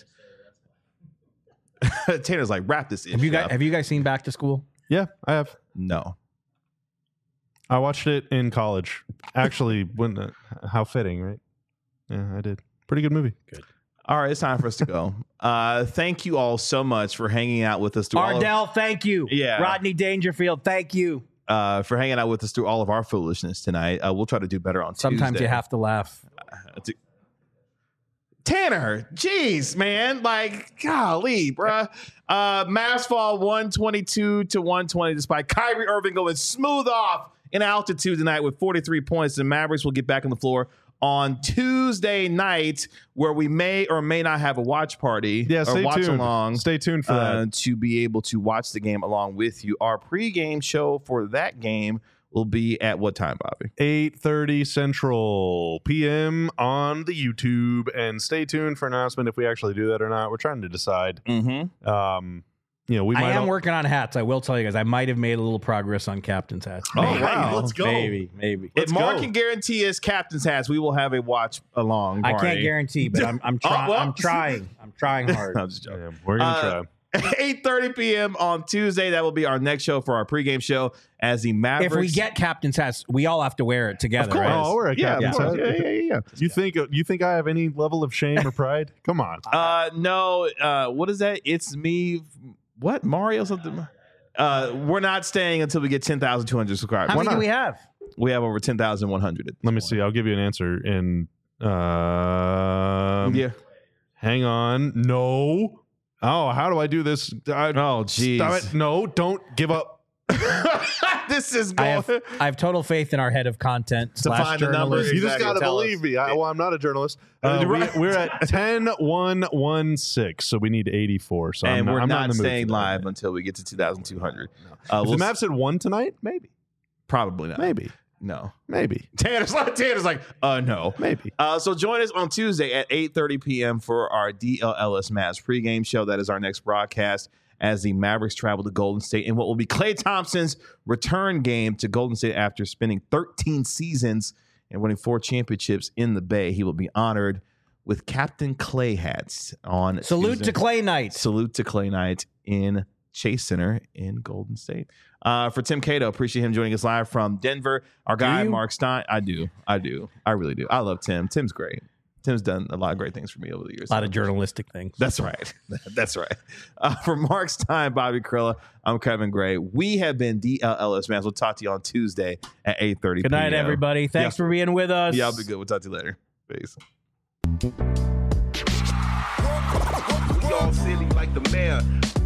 Tanner's like, wrap this in. Have you guys seen Back to School? Yeah, I have. No. I watched it in college. Actually, how fitting, right? Yeah, I did. Pretty good movie. Good. All right, it's time for us to go. Thank you all so much for hanging out with us. Ardell, thank you. Yeah. Rodney Dangerfield, thank you. For hanging out with us through all of our foolishness tonight. We'll try to do better on Tuesday. Sometimes you have to laugh. Tanner, jeez, man. Like, golly, bruh. Mavs fall 122 to 120 despite Kyrie Irving going smooth off in altitude tonight with 43 points. The Mavericks will get back on the floor on Tuesday night, where we may or may not have a watch party. Yeah, stay watch tuned. along. Stay tuned for that. To be able to watch the game along with you. Our pregame show for that game will be at what time, Bobby? 8:30 Central PM on the YouTube, and stay tuned for an announcement if we actually do that or not. We're trying to decide. Mm-hmm. We might. I am working on hats. I will tell you guys, I might have made a little progress on captain's hats. Oh, wow. Let's go. Maybe. If Mark can guarantee his captain's hats, we will have a watch along I party. can't guarantee, but I'm trying. well. I'm trying. I'm trying hard. I'm just joking. Yeah, we're gonna try. 8:30 p.m. on Tuesday. That will be our next show for our pregame show as the Mavericks. If we get captain's hats, we all have to wear it together. Of course. Right? Oh, we're a yeah, captain's of course. hat. Yeah. You think I have any level of shame or pride? Come on. No. What is that? It's me. What? Mario something? We're not staying until we get 10,200 subscribers. How Why many do not? we have? We have over 10,100. Let me see. I'll give you an answer in. Yeah. Hang on. No. Oh, how do I do this? Oh, geez. Stop it. No, don't give up. This is I going. have total faith in our head of content / find the numbers. journalist. You just Exactly. got to Tell believe us. me. I'm not a journalist. We're at 10,116, so we need 84. So And we're I'm not in the mood staying for that. live until we get to 2,200. If the We'll Mavs had won tonight, maybe. probably not. Maybe. No. Maybe. Tanner's like, no. Maybe. So join us on Tuesday at 8:30 p.m. for our DLLS Mavs pregame show. That is our next broadcast as the Mavericks travel to Golden State in what will be Klay Thompson's return game to Golden State after spending 13 seasons and winning 4 championships in the Bay. He will be honored with Captain Klay hats on Salute Tuesday. to Clay Knight. Salute to Klay Knight in Chase Center in Golden State. For Tim Cato, appreciate him joining us live from Denver. Our guy, you? Mark Stein. I do. I really do. I love Tim. Tim's great. Tim's done a lot of great things for me over the years. A lot of journalistic things. That's right. That's right. For Mark Stein, Bobby Krilla, I'm Kevin Gray. We have been DLLS Mavs. We'll talk to you on Tuesday at 8:30 Good night, everybody. Thanks for being with us. Yeah, I'll be good. We'll talk to you later. Peace. We all silly like the mayor.